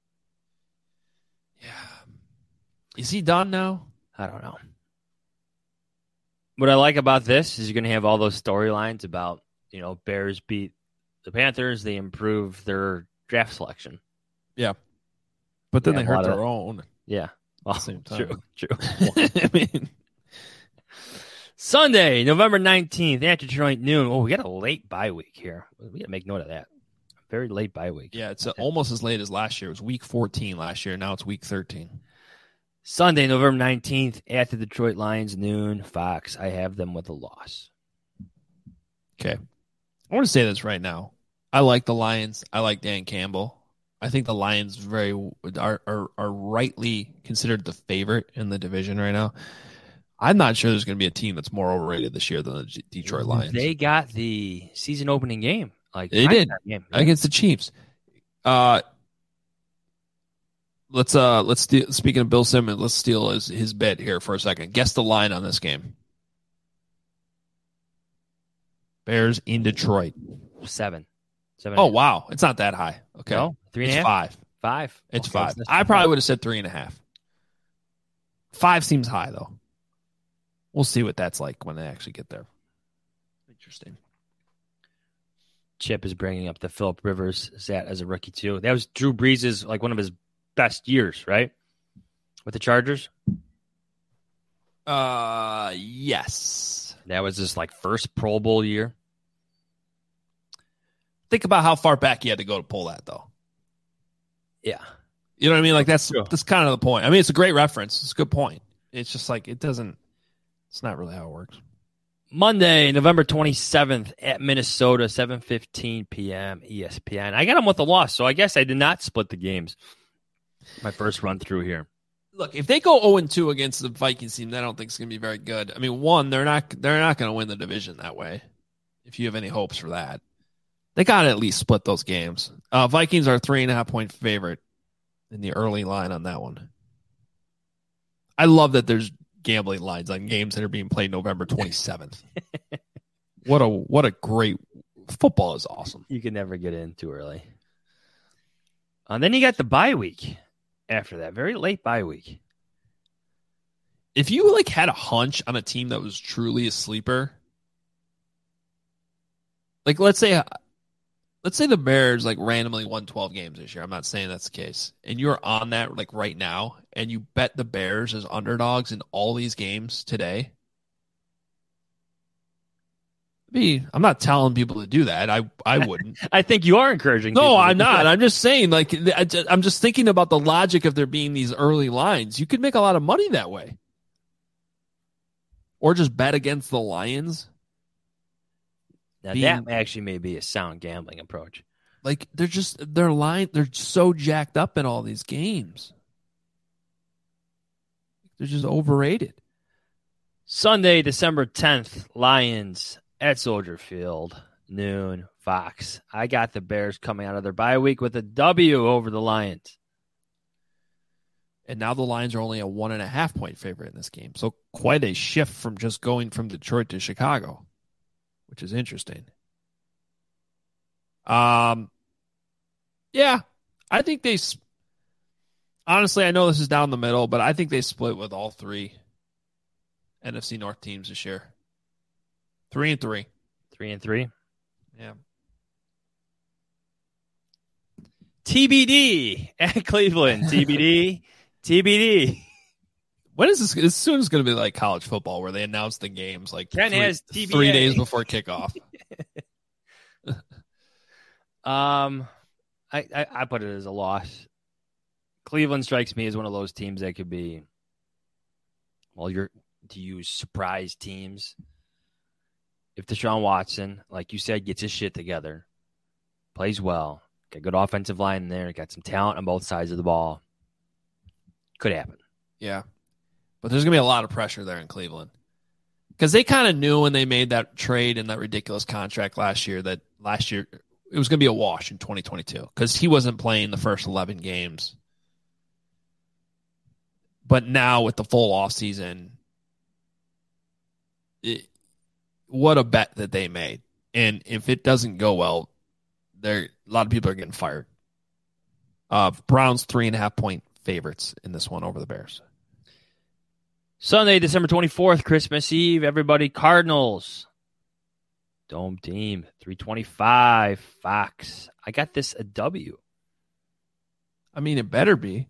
Yeah. Is he done now? I don't know. What I like about this is you're going to have all those storylines about, Bears beat the Panthers. They improve their draft selection. Yeah. But then they hurt their own. Yeah. Well, same time. True. I mean, Sunday, November 19th, at Detroit noon. Oh, we got a late bye week here. We got to make note of that. Very late bye week. Yeah, it's almost as late as last year. It was week 14 last year. Now it's week 13. Sunday, November 19th, at the Detroit Lions noon. Fox, I have them with a loss. Okay. I want to say this right now. I like the Lions. I like Dan Campbell. I think the Lions are rightly considered the favorite in the division right now. I'm not sure there's going to be a team that's more overrated this year than the Detroit Lions. They got the season opening game. They did against the Chiefs. Let's steal, speaking of Bill Simmons, let's steal his bet here for a second. Guess the line on this game. Bears in Detroit. 7. Oh, wow. It's not that high. Okay. No? 3.5? It's 5. 5. It's 5. I probably would have said 3.5. 5 seems high, though. We'll see what that's like when they actually get there. Interesting. Chip is bringing up the Phillip Rivers stat as a rookie, too. That was Drew Brees' like one of his best years, right? With the Chargers? Yes. That was his like first Pro Bowl year. Think about how far back you had to go to pull that, though. Yeah. You know what I mean? Like that's kind of the point. I mean, it's a great reference. It's a good point. It's just like it's not really how it works. Monday, November 27th at Minnesota, 7:15 p.m. ESPN. I got them with a loss, so I guess I did not split the games. My first run through here. Look, if they go 0-2 against the Vikings team, I don't think it's going to be very good. I mean, one, they're not going to win the division that way. If you have any hopes for that, they got to at least split those games. Vikings are 3.5-point favorite in the early line on that one. I love that there's gambling lines on games that are being played November 27th. What a great football is awesome. You can never get in too early. And then you got the bye week after that. Very late bye week. If you had a hunch on a team that was truly a sleeper, let's say the Bears randomly won 12 games this year. I'm not saying that's the case. And you're on that right now and you bet the Bears as underdogs in all these games today. I'm not telling people to do that. I wouldn't. I think you are encouraging. No, I'm not. I'm just saying, I'm just thinking about the logic of there being these early lines. You could make a lot of money that way. Or just bet against the Lions. Now, that actually may be a sound gambling approach. They're so jacked up in all these games. They're just overrated. Sunday, December 10th, Lions at Soldier Field, noon, Fox. I got the Bears coming out of their bye week with a W over the Lions. And now the Lions are only a 1.5-point favorite in this game. So quite a shift from just going from Detroit to Chicago, which is interesting. Yeah, I think honestly, I know this is down the middle, but I think they split with all 3 NFC North teams this year. 3-3. 3-3. Yeah. TBD at Cleveland. TBD. When is this? As soon as it's going to be like college football where they announce the games Ken has 3 days before kickoff. I put it as a loss. Cleveland strikes me as one of those teams that could be, you're to use surprise teams. If Deshaun Watson, like you said, gets his shit together, plays well, got good offensive line in there, got some talent on both sides of the ball, could happen. Yeah. But there's going to be a lot of pressure there in Cleveland. Because they kind of knew when they made that trade and that ridiculous contract last year that last year it was going to be a wash in 2022 because he wasn't playing the first 11 games. But now with the full offseason, what a bet that they made. And if it doesn't go well, a lot of people are getting fired. Browns 3.5-point favorites in this one over the Bears. Sunday, December 24th, Christmas Eve. Everybody, Cardinals. Dome team, 325, Fox. I got this a W. I mean, it better be.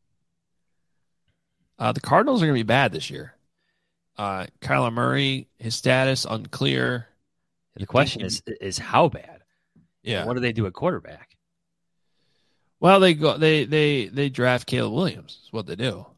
The Cardinals are going to be bad this year. Kyler Murray, his status unclear. The question is how bad? Yeah. And what do they do at quarterback? Well, they draft Caleb Williams. Is what they do.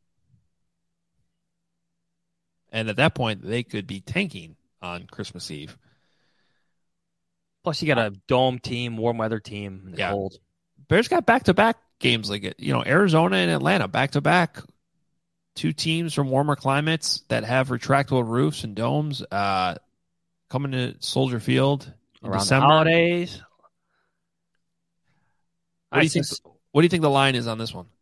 And at that point, they could be tanking on Christmas Eve. Plus, you got a dome team, warm weather team, in the cold. Bears got back-to-back games like it. Arizona and Atlanta back-to-back. 2 teams from warmer climates that have retractable roofs and domes coming to Soldier Field in around December. The holidays. What do you think the line is on this one?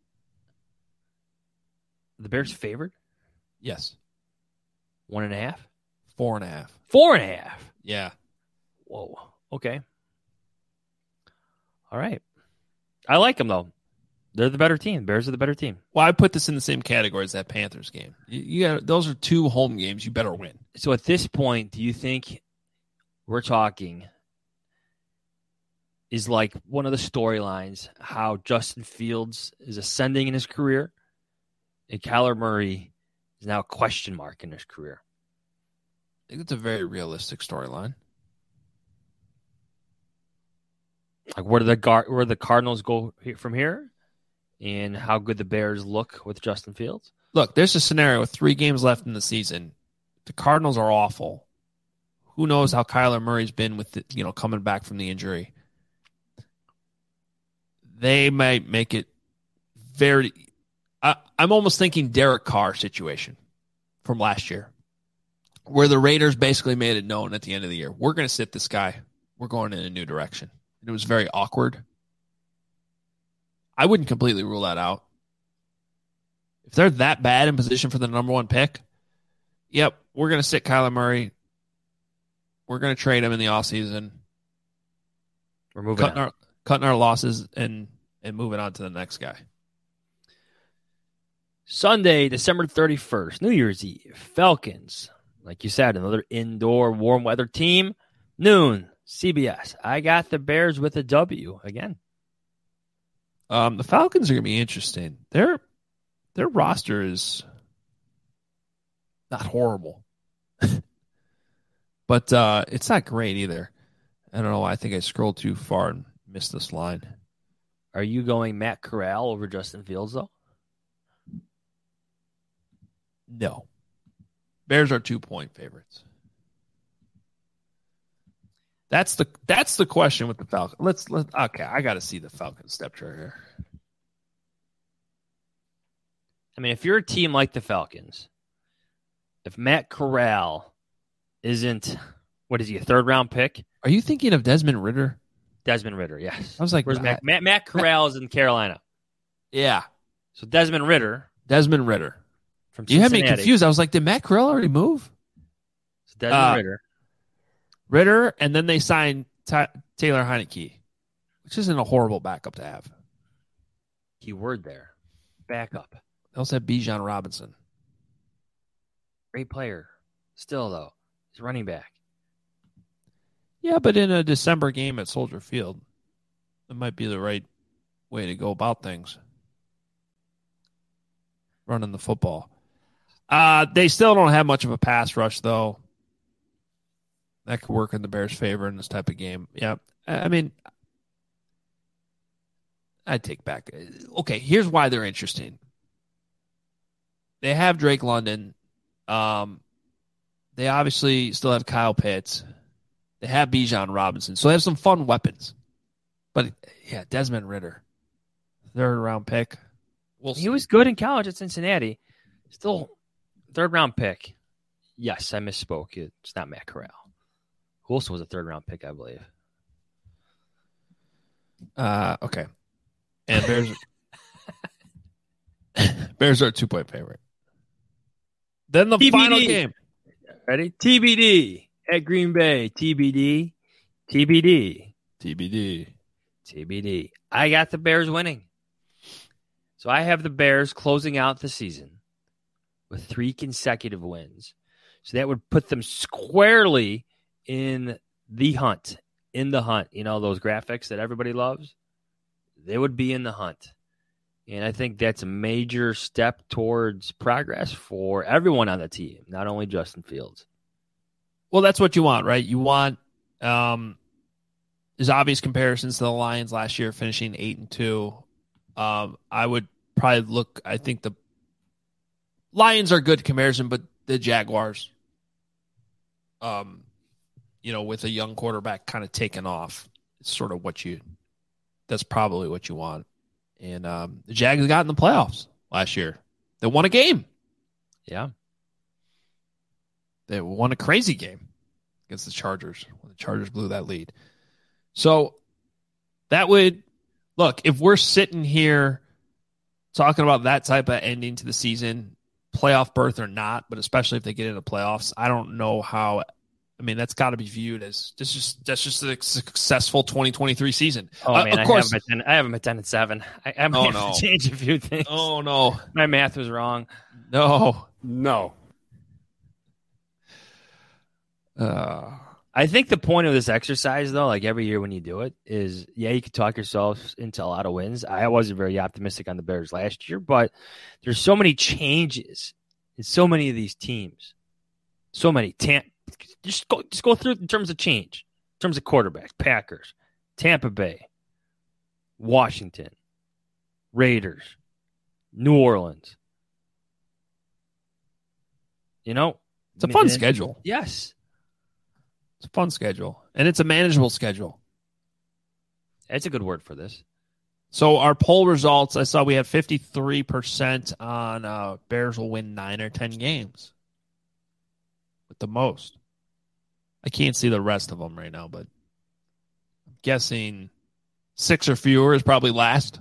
The Bears favored? Yes. 1.5? 4.5. 4.5? Yeah. Whoa. Okay. All right. I like them, though. They're the better team. Bears are the better team. Well, I put this in the same category as that Panthers game. You got those are 2 home games. You better win. So at this point, do you think we're talking is like one of the storylines how Justin Fields is ascending in his career and Kyler Murray is now a question mark in his career? I think it's a very realistic storyline. Like where do the Cardinals go from here, and how good the Bears look with Justin Fields? Look, there's a scenario with 3 games left in the season. The Cardinals are awful. Who knows how Kyler Murray's been with coming back from the injury. They might make it very. I'm almost thinking Derek Carr situation from last year, where the Raiders basically made it known at the end of the year, we're going to sit this guy. We're going in a new direction. And it was very awkward. I wouldn't completely rule that out. If they're that bad in position for the number 1 pick, yep, we're going to sit Kyler Murray. We're going to trade him in the offseason. We're moving cutting our losses and moving on to the next guy. Sunday, December 31st, New Year's Eve, Falcons. Like you said, another indoor warm weather team. Noon, CBS. I got the Bears with a W again. The Falcons are going to be interesting. Their roster is not horrible, but it's not great either. I don't know why. I think I scrolled too far and missed this line. Are you going Matt Corral over Justin Fields, though? No. Bears are 2-point favorites. That's the question with the Falcons. Okay, I got to see the Falcons step chart here. I mean, if you're a team like the Falcons, if Matt Corral isn't, what is he, a 3rd-round pick? Are you thinking of Desmond Ridder? Desmond Ridder, yes. I was like, where's Matt Corral is in Carolina. Yeah. So Desmond Ridder. From Cincinnati. You had me confused. I was like, did Matt Corral already move? So Desmond Ridder, and then they signed Taylor Heineke, which isn't a horrible backup to have. Keyword there. Backup. They also have Bijan Robinson. Great player. Still, though, he's running back. Yeah, but in a December game at Soldier Field, it might be the right way to go about things. Running the football. They still don't have much of a pass rush, though. That could work in the Bears' favor in this type of game. Yeah, I mean, I'd take back. Okay, here's why they're interesting. They have Drake London. They obviously still have Kyle Pitts. They have Bijan Robinson. So they have some fun weapons. But, yeah, Desmond Ridder, 3rd-round pick. He was good in college at Cincinnati. Still 3rd-round pick. Yes, I misspoke. It's not Matt Corral. Who also was a 3rd-round pick, I believe. Okay. And Bears are a 2-point favorite. Then the TBD. Final game. Ready? TBD at Green Bay. TBD. I got the Bears winning. So I have the Bears closing out the season with 3 consecutive wins. So that would put them squarely in the hunt. You know, those graphics that everybody loves? They would be in the hunt. And I think that's a major step towards progress for everyone on the team, not only Justin Fields. Well, that's what you want, right? You want there's obvious comparisons to the Lions last year finishing 8-2. I would probably I think the Lions are good comparison, but the Jaguars, with a young quarterback kind of taking off, it's sort of that's probably what you want. And the Jags got in the playoffs last year. They won a game. Yeah. They won a crazy game against the Chargers when the Chargers blew that lead. So that would look, if we're sitting here talking about that type of ending to the season, playoff berth or not, but especially if they get into playoffs, I don't know how I mean, that's got to be viewed as that's just a successful 2023 season. Oh man, of course, I have them at 10-7. I might have to change a few things. Oh no, my math was wrong. No. I think the point of this exercise, though, like every year when you do it, is you can talk yourself into a lot of wins. I wasn't very optimistic on the Bears last year, but there's so many changes in so many of these teams. So many. Just go through it in terms of change, in terms of quarterbacks, Packers, Tampa Bay, Washington, Raiders, New Orleans. It's a fun schedule. Yes. It's a fun schedule, and it's a manageable schedule. That's a good word for this. So our poll results, I saw we had 53% on Bears will win 9 or 10 games with the most. I can't see the rest of them right now, but I'm guessing 6 or fewer is probably last.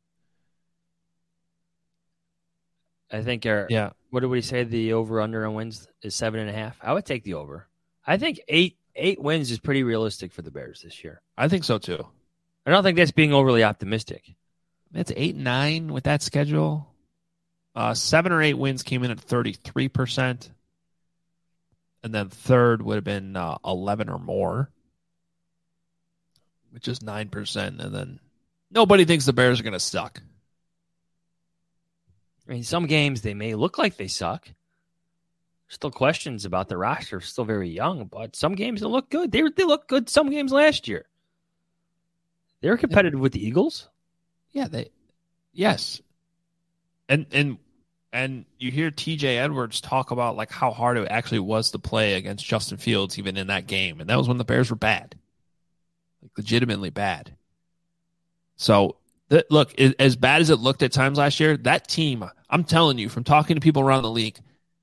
I think what did we say? The over-under on wins is 7.5. I would take the over. I think 8 wins is pretty realistic for the Bears this year. I think so too. I don't think that's being overly optimistic. It's 8-9 with that schedule. 7 or 8 wins came in at 33%. And then third would have been 11 or more, which is 9%. And then nobody thinks the Bears are going to suck. I mean, some games they may look like they suck. Still questions about the roster. Still very young, but some games they look good. They look good some games last year. They were competitive with the Eagles. Yeah, yes. And you hear TJ Edwards talk about like how hard it actually was to play against Justin Fields even in that game. And that was when the Bears were bad. Like legitimately bad. So look, as bad as it looked at times last year, that team, I'm telling you, from talking to people around the league,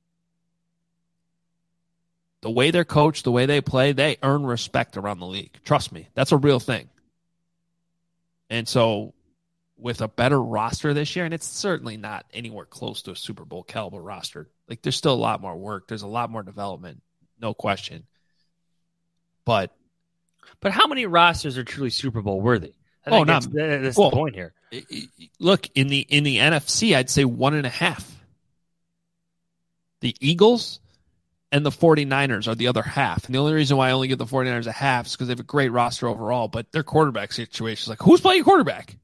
the way they're coached, the way they play, they earn respect around the league. Trust me, that's a real thing. And so with a better roster this year, and it's certainly not anywhere close to a Super Bowl caliber roster. Like there's still a lot more work. There's a lot more development, no question. But how many rosters are truly Super Bowl worthy? That's the point here. Look, in the NFC, I'd say 1.5. The Eagles and the 49ers are the other half. And the only reason why I only give the 49ers a half is because they have a great roster overall, but their quarterback situation is like, who's playing quarterback?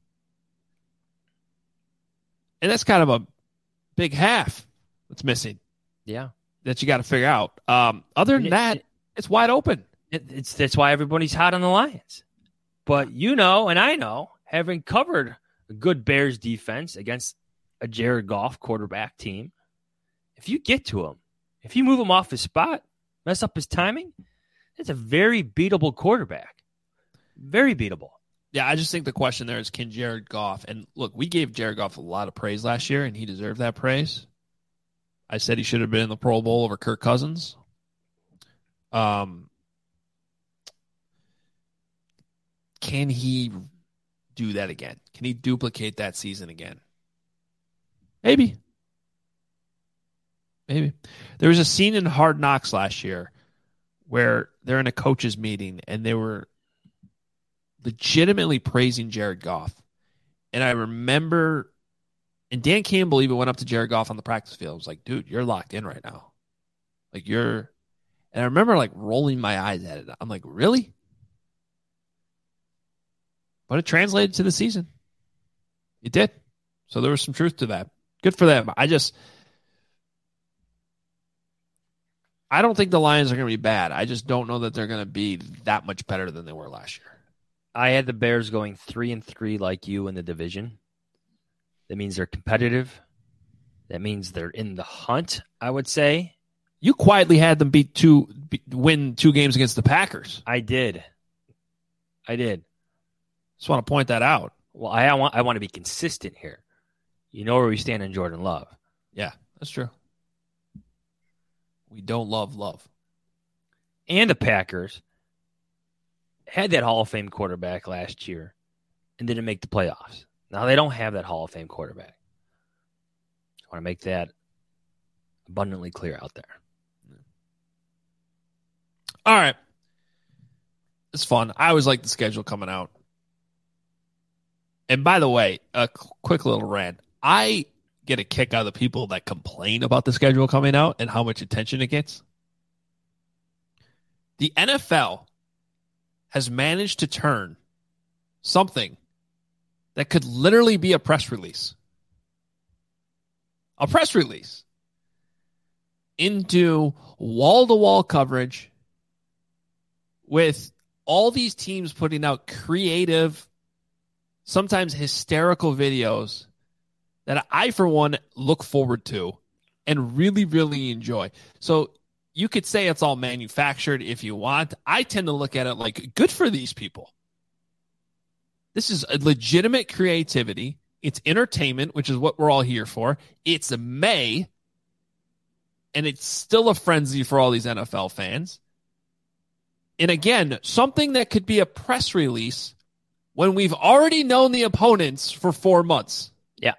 And that's kind of a big half that's missing. Yeah. That you got to figure out. Other than that, it's wide open. That's why everybody's hot on the Lions. But and I know, having covered a good Bears defense against a Jared Goff quarterback team, if you get to him, if you move him off his spot, mess up his timing, it's a very beatable quarterback. Very beatable. Yeah, I just think the question there is, can Jared Goff, and look, we gave Jared Goff a lot of praise last year, and he deserved that praise. I said he should have been in the Pro Bowl over Kirk Cousins. Can he do that again? Can he duplicate that season again? Maybe. There was a scene in Hard Knocks last year where they're in a coaches meeting and they were legitimately praising Jared Goff. And I remember, and Dan Campbell even went up to Jared Goff on the practice field. I was like, dude, you're locked in right now. And I remember like rolling my eyes at it. I'm like, really? But it translated to the season. It did. So there was some truth to that. Good for them. I don't think the Lions are going to be bad. I just don't know that they're going to be that much better than they were last year. I had the Bears going 3-3 like you in the division. That means they're competitive. That means they're in the hunt, I would say. You quietly had them win 2 games against the Packers. I did. Just want to point that out. Well, I want to be consistent here. You know where we stand in Jordan Love. Yeah, that's true. We don't love. And the Packers had that Hall of Fame quarterback last year and didn't make the playoffs. Now they don't have that Hall of Fame quarterback. I want to make that abundantly clear out there. All right. It's fun. I always like the schedule coming out. And by the way, a quick little rant. I get a kick out of the people that complain about the schedule coming out and how much attention it gets. The NFL has managed to turn something that could literally be a press release into wall-to-wall coverage with all these teams putting out creative, sometimes hysterical videos that I, for one, look forward to and really, really enjoy. So you could say it's all manufactured if you want. I tend to look at it like, good for these people. This is a legitimate creativity. It's entertainment, which is what we're all here for. It's May, and it's still a frenzy for all these NFL fans. And again, something that could be a press release when we've already known the opponents for 4 months. Yeah.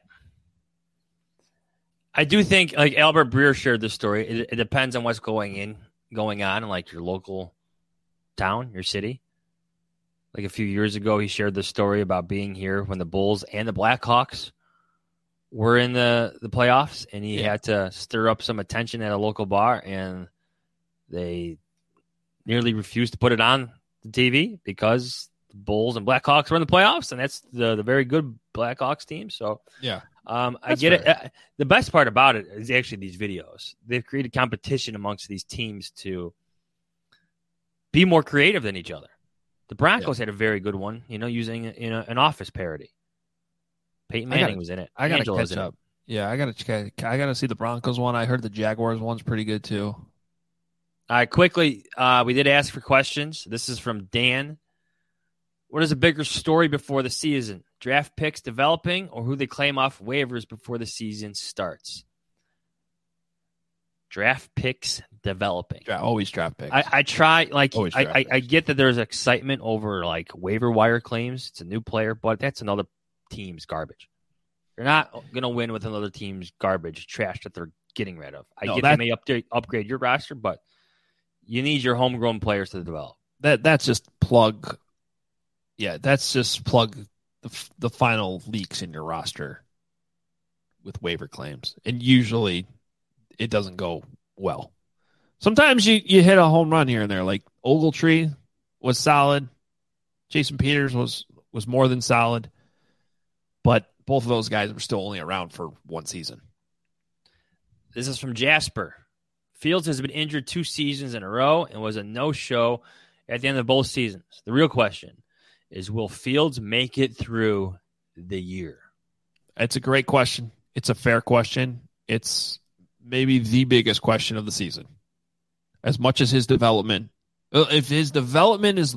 I do think, like Albert Breer shared this story, it depends on what's going on in like your local town, your city. Like a few years ago, he shared this story about being here when the Bulls and the Blackhawks were in the playoffs, and he had to stir up some attention at a local bar, and they nearly refused to put it on the TV because the Bulls and Blackhawks were in the playoffs, and that's the very good Blackhawks team. So yeah, I get it. The best part about it is actually these videos. They've created competition amongst these teams to be more creative than each other. The Broncos had a very good one, using an Office parody. Peyton Manning was in it. I got to catch up. Yeah, I got to see the Broncos one. I heard the Jaguars one's pretty good too. All right, quickly, we did ask for questions. This is from Dan. What is a bigger story before the season? Draft picks developing or who they claim off waivers before the season starts? Draft picks developing. Always draft picks. I try, I get that there's excitement over like waiver wire claims. It's a new player, but that's another team's garbage. You're not going to win with another team's garbage, trash that they're getting rid of. I get they may upgrade your roster, but you need your homegrown players to develop. That's just plug. Yeah, that's just plug the final leaks in your roster with waiver claims, and usually it doesn't go well. Sometimes you hit a home run here and there. Like Ogletree was solid. Jason Peters was more than solid. But both of those guys were still only around for one season. This is from Jasper. Fields has been injured 2 seasons in a row and was a no-show at the end of both seasons. The real question is, will Fields make it through the year? It's a great question. It's a fair question. It's maybe the biggest question of the season. As much as his development, if his development is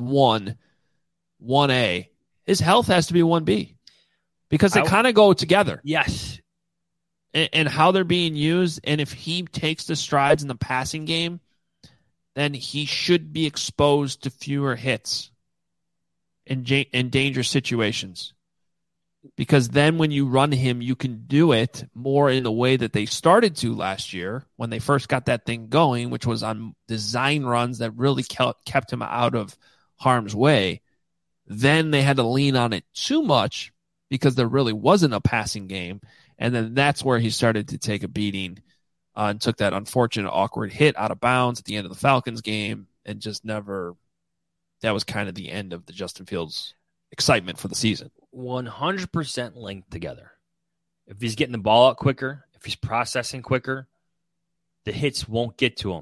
1A, his health has to be 1B. Because they kind of go together. Yes. And how they're being used. And if he takes the strides in the passing game, then he should be exposed to fewer hits in dangerous situations. Because then when you run him, you can do it more in the way that they started to last year when they first got that thing going, which was on design runs that really kept him out of harm's way. Then they had to lean on it too much because there really wasn't a passing game. And then that's where he started to take a beating and took that unfortunate, awkward hit out of bounds at the end of the Falcons game and just never – that was kind of the end of the Justin Fields excitement for the season. 100% linked together. If he's getting the ball out quicker, if he's processing quicker, the hits won't get to him.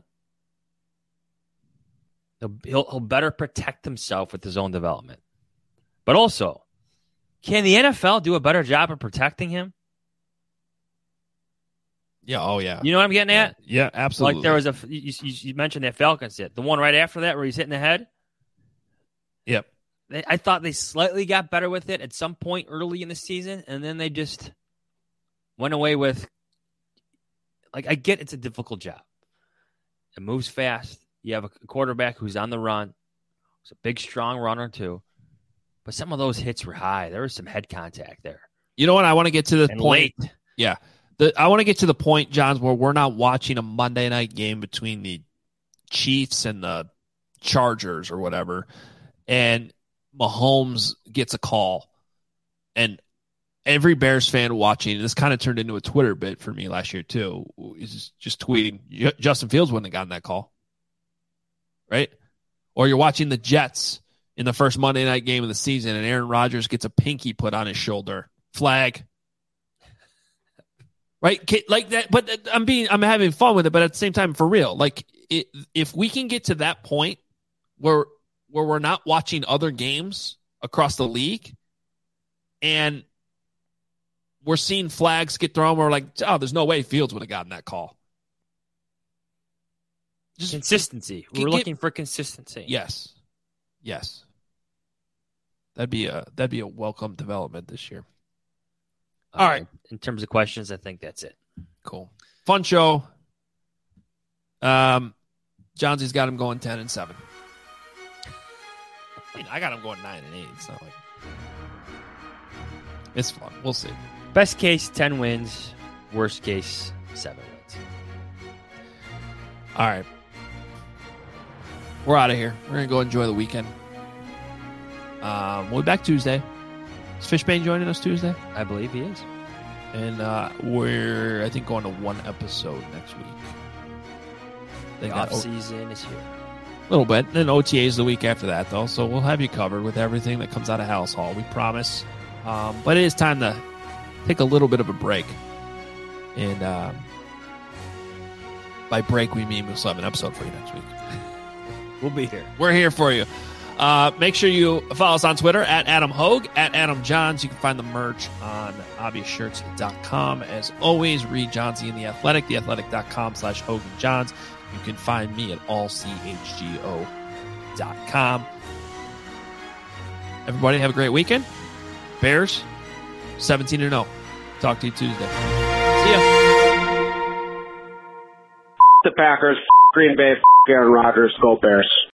He'll better protect himself with his own development. But also, can the NFL do a better job of protecting him? Yeah. Oh, yeah. You know what I'm getting at? Yeah, absolutely. Like there was you mentioned that Falcons hit. The one right after that where he's hitting the head? Yep. I thought they slightly got better with it at some point early in the season, and then they just went away with, like, I get it's a difficult job. It moves fast. You have a quarterback who's on the run. He's a big, strong runner, too. But some of those hits were high. There was some head contact there. You know what? I want to get to the point. Late. Yeah. I want to get to the point, Johns, where we're not watching a Monday night game between the Chiefs and the Chargers or whatever, and Mahomes gets a call, and every Bears fan watching, this kind of turned into a Twitter bit for me last year too, is just tweeting, Justin Fields wouldn't have gotten that call, right? Or you're watching the Jets in the first Monday night game of the season, and Aaron Rodgers gets a pinky put on his shoulder. Flag. Right? Like that, but I'm having fun with it, but at the same time, for real, like if we can get to that point where we're not watching other games across the league and we're seeing flags get thrown, we're like, oh, there's no way Fields would have gotten that call. Just consistency. We're looking for consistency. Yes. That'd be a welcome development this year. All right. In terms of questions, I think that's it. Cool. Fun show. Johnsy's got him going 10-7. I mean, I got him going 9-8. It's not like it's fun. We'll see. Best case, 10 wins. Worst case, 7 wins. All right. We're out of here. We're going to go enjoy the weekend. We'll be back Tuesday. Is Fishbane joining us Tuesday? I believe he is. And we're, I think, going to one episode next week. The off-season is here. A little bit. And then OTA is the week after that, though. So we'll have you covered with everything that comes out of House Hall. We promise. But it is time to take a little bit of a break. And by break, we mean we'll still have an episode for you next week. We'll be here. We're here for you. Make sure you follow us on Twitter at Adam Hogue, at Adam Johns. You can find the merch on obviousshirts.com. As always, read Johnsy in The Athletic, theathletic.com/HoganJohns. You can find me at allchgo.com. Everybody have a great weekend. Bears, 17-0. Talk to you Tuesday. See ya. The Packers, Green Bay, Aaron Rodgers, go Bears.